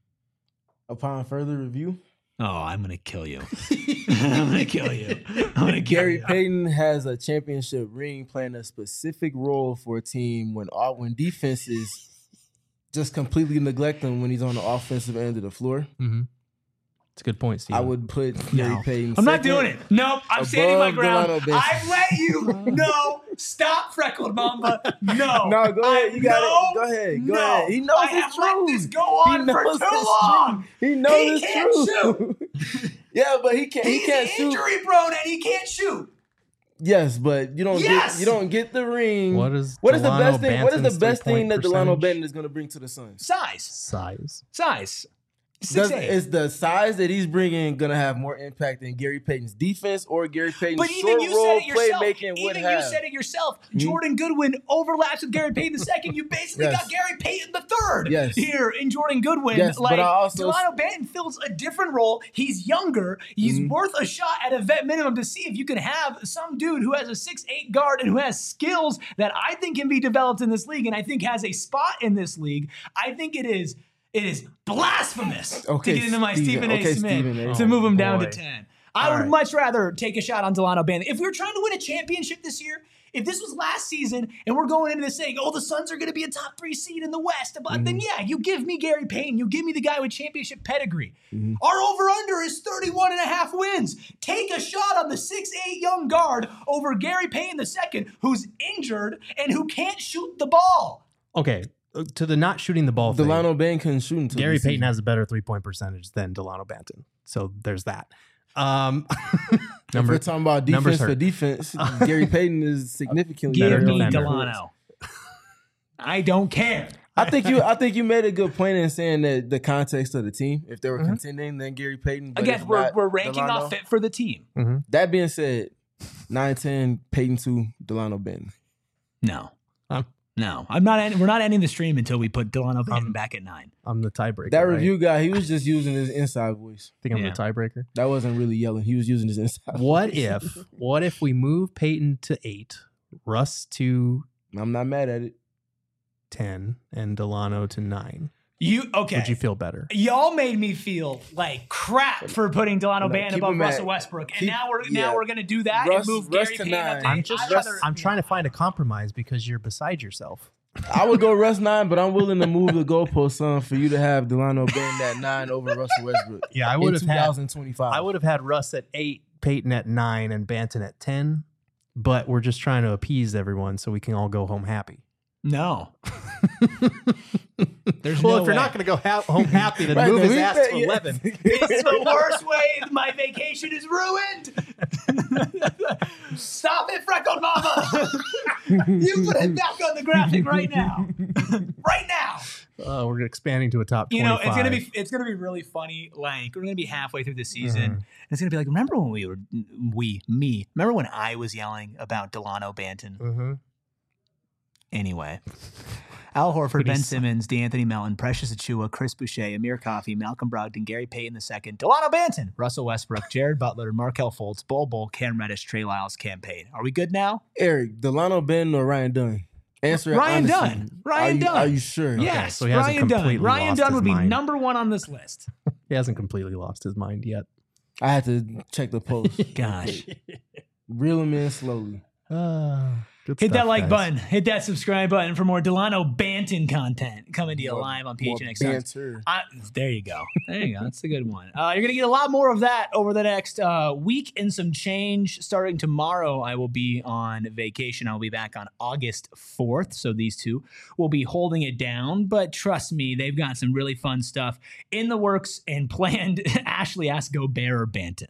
Upon further review, Oh, I'm gonna kill you. I'm gonna kill you. I'm gonna kill Gary you. Payton has a championship ring, playing a specific role for a team when all when defenses just completely neglect him when he's on the offensive end of the floor. Mm-hmm. It's a good point, Steve. I would put Gary No. Payton. I'm not second. doing it. Nope. I'm standing my above ground. Delano Benson. I've let you know. Stop, Freckled Mamba. No. No, go ahead. You got no, it. Go ahead. Go no. ahead. He knows I it's have let true. this go on He for knows too it's long. true. He knows He it's can't true. Yeah, but he can't. He He's can't shoot. injury prone and he can't shoot. Yes, but you don't Yes! get you don't get the ring. What is what is the Delano best thing? What is the Banton's best thing three-point that Delano percentage? Benton is going to bring to the Suns? Size. Size. Size. Six Does, eight. is the size that he's bringing going to have more impact than Gary Payton's defense or Gary Payton's But even short you role said it yourself. playmaking would Even have? you said it yourself. Hmm? Jordan Goodwin overlaps with Gary Payton the second. You basically Yes. got Gary Payton the third Yes. here in Jordan Goodwin. Yes, but like I also- Delano Banton fills a different role. He's younger. He's Mhm. worth a shot at a vet minimum to see if you can have some dude who has a six eight guard and who has skills that I think can be developed in this league and I think has a spot in this league. I think it is It is blasphemous Okay, to get into my Stephen. Stephen A. Okay, Smith Stephen A. to move him Oh, down boy. to ten. I All would right. much rather take a shot on Delano Banton. If we were trying to win a championship this year, if this was last season and we're going into this saying, oh, the Suns are going to be a top three seed in the West, but Mm-hmm. then yeah, you give me Gary Payton. You give me the guy with championship pedigree. Mm-hmm. Our over-under is thirty-one and a half wins. Take a shot on the six eight young guard over Gary Payton the second, who's injured and who can't shoot the ball. Okay, uh, to the not shooting the ball thing, Delano Banton couldn't shoot until Gary this Payton season. has a better three-point percentage than Delano Banton. So there's that. Um, If number we're talking about numbers defense for hurt. defense, Gary Payton is significantly Give Better me defender. Delano. I don't care. I think you. I think you made a good point in saying that the context of the team. If they were Mhm. contending, then Gary Payton. But Again, if we're, not, we're ranking Delano. off fit for the team. That being said, nine ten Payton two Delano Benton. No. Um, No. I'm not end- we're not ending the stream until we put Delano Banton Um, back at nine. I'm the tiebreaker. That right? review guy, he was just using his inside voice. I think I'm Yeah. the tiebreaker. That wasn't really yelling. He was using his inside. What voice. if? What if we move Peyton to eight, Russ to I'm not mad at it. ten, and Delano to nine? You okay. Would you feel better? Y'all made me feel like crap for putting Delano No, Banton keep above him at- Russell Westbrook. And keep- now we're yeah. now we're gonna do that Russ- and move Russ Gary to Payton up nine. to I'm eight. just, I'd rather- I'm trying to find a compromise because you're beside yourself. I would go Russ nine, but I'm willing to move the goalpost some for you to have Delano Benton at nine over Russell Westbrook. Yeah, I in would have had. twenty twenty-five. I would have had Russ at eight, Peyton at nine, and Banton at ten. But we're just trying to appease everyone so we can all go home happy. No. There's well, no if you're way. not going to go ha- home happy, then Right, move then his we ass bet- to yeah. eleven. It's the worst way. My vacation is ruined. Stop it, Freckled Mama. You put it back on the graphic right now. Right now. Uh, we're expanding to a top You know, twenty-five. it's gonna be it's gonna be really funny. Like we're gonna be halfway through the season, Mhm. and it's gonna be like, remember when we were we me? Remember when I was yelling about Delano Banton? Mhm. Anyway, Al Horford, Pretty Ben solid. Simmons, DeAnthony Melton, Precious Achua, Chris Boucher, Amir Coffey, Malcolm Brogdon, Gary Payton the second, Delano Banton, Russell Westbrook, Jared Butler, Markelle Fultz, Bol Bol, Cam Reddish, Trey Lyles, Cam Payne. Are we good now? Eric, Delano Banton or Ryan Dunn? Answer it Ryan honestly. Dunn. Ryan are you, Dunn. Are you sure? Yes, so he hasn't Ryan Dunn. completely Ryan lost Dunn his would be mind. number one on this list. He hasn't completely lost his mind yet. I had to check the post. Gosh. Reel him in slowly. Uh, good Hit that stuff, like guys. button. Hit that subscribe button for more Delano Banton content coming to you More- live on more P H N X Suns. banter. I, there you go. There you go. That's a good one. Uh, you're going to get a lot more of that over the next uh, week and some change. Starting tomorrow, I will be on vacation. I'll be back on August fourth. So these two will be holding it down. But trust me, they've got some really fun stuff in the works and planned. Ashley asked Gobert or Banton.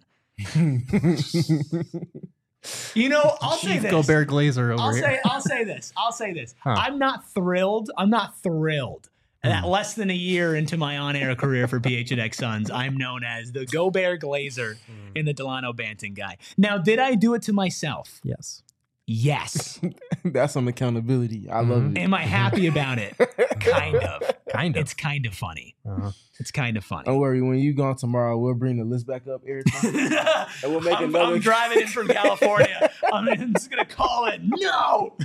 You know, I'll say Chief this. Gobert Glazer over I'll here. say, I'll say this. I'll say this. Huh. I'm not thrilled. I'm not thrilled that less than a year into my on-air career for P H N X Suns, I'm known as the Gobert Glazer and the Delano Banton guy. Now, did I do it to myself? Yes. Yes. That's some accountability. I love Mhm. it. Am I happy about it? Kind of. Kind of. It's kind of funny. Uh-huh. It's kind of funny. Don't worry. When you gone tomorrow, we'll bring the list back up every time. And we'll make I'm, another. I'm driving in from California. I'm just going to call it. No.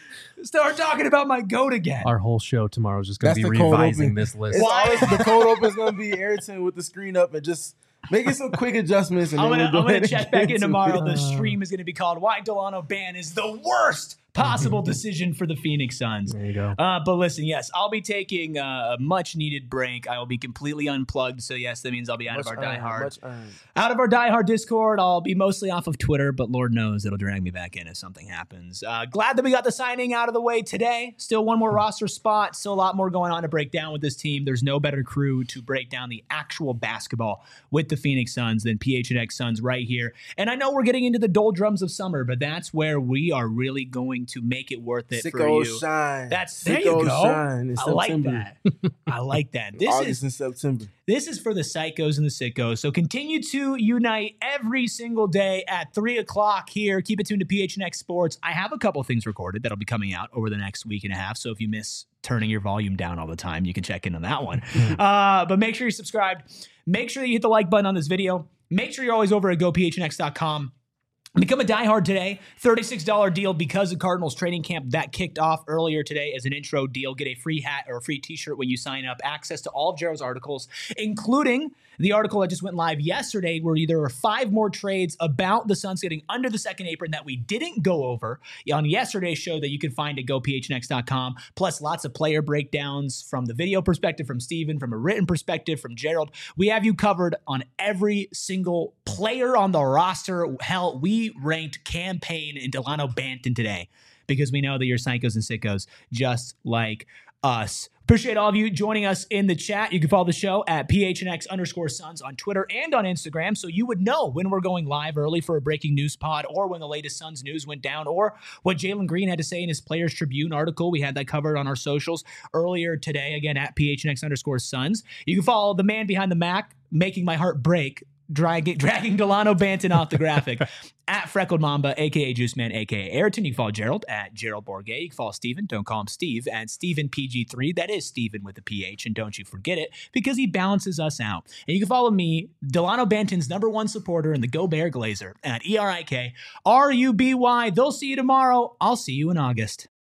Start talking about my goat again. Our whole show tomorrow is just going That's to be the cold revising open. this list. It's Why? always, the cold open is going to be Ayrton with the screen up and just making some quick adjustments. And I'm then gonna, we'll I'm go gonna ahead check and back get in to tomorrow. it. The stream is gonna be called "Why Delano Ban is the worst possible decision for the Phoenix Suns." There you go. Uh, but listen, yes, I'll be taking uh, a much needed break. I will be completely unplugged. So yes, that means I'll be out Much of our earned, diehard, much earned. out of our diehard Discord. I'll be mostly off of Twitter, but Lord knows it'll drag me back in if something happens. Uh, glad that we got the signing out of the way today. Still one more roster spot. Still a lot more going on to break down with this team. There's no better crew to break down the actual basketball with the Phoenix Suns than P H N X Suns right here. And I know we're getting into the doldrums of summer, but that's where we are really going to make it worth it for Sicko you. shine. That's there Sicko you go. shine in I like September. that. I like that. This August is and September. this is for the psychos and the sickos. So continue to unite every single day at three o'clock here. Keep it tuned to P H N X Sports. I have a couple things recorded that'll be coming out over the next week and a half. So if you miss turning your volume down all the time, you can check in on that one. Uh, but make sure you're subscribed. Make sure that you hit the like button on this video. Make sure you're always over at go p h n x dot com. Become a diehard today. thirty-six dollars deal because of Cardinals training camp that kicked off earlier today as an intro deal. Get a free hat or a free t-shirt when you sign up. Access to all of Gerald's articles, including the article that just went live yesterday where there were five more trades about the Suns getting under the second apron that we didn't go over on yesterday's show that you can find at go p h n x dot com. Plus lots of player breakdowns from the video perspective, from Steven, from a written perspective, from Gerald. We have you covered on every single player on the roster. Hell, we ranked Cam Payne and Delano Banton today because we know that you're psychos and sickos just like us. Appreciate all of you joining us in the chat. You can follow the show at P H N X underscore Suns on Twitter and on Instagram, so you would know when we're going live early for a breaking news pod or when the latest Suns news went down or what Jalen Green had to say in his Players Tribune article. We had that covered on our socials earlier today, again, at P H N X underscore Suns. You can follow the man behind the Mac, making my heart break, dragging, dragging Delano Banton off the graphic at Freckled Mamba, a k a. Juice Man, a k a. Ayrton. You can follow Gerald at Gerald Bourget. You can follow Steven, don't call him Steve, at Steven P G three. That is Steven with a P H, and don't you forget it, because he balances us out. And you can follow me, Delano Banton's number one supporter in the Gobert Glazer, at E R I K R U B Y. They'll see you tomorrow. I'll see you in August.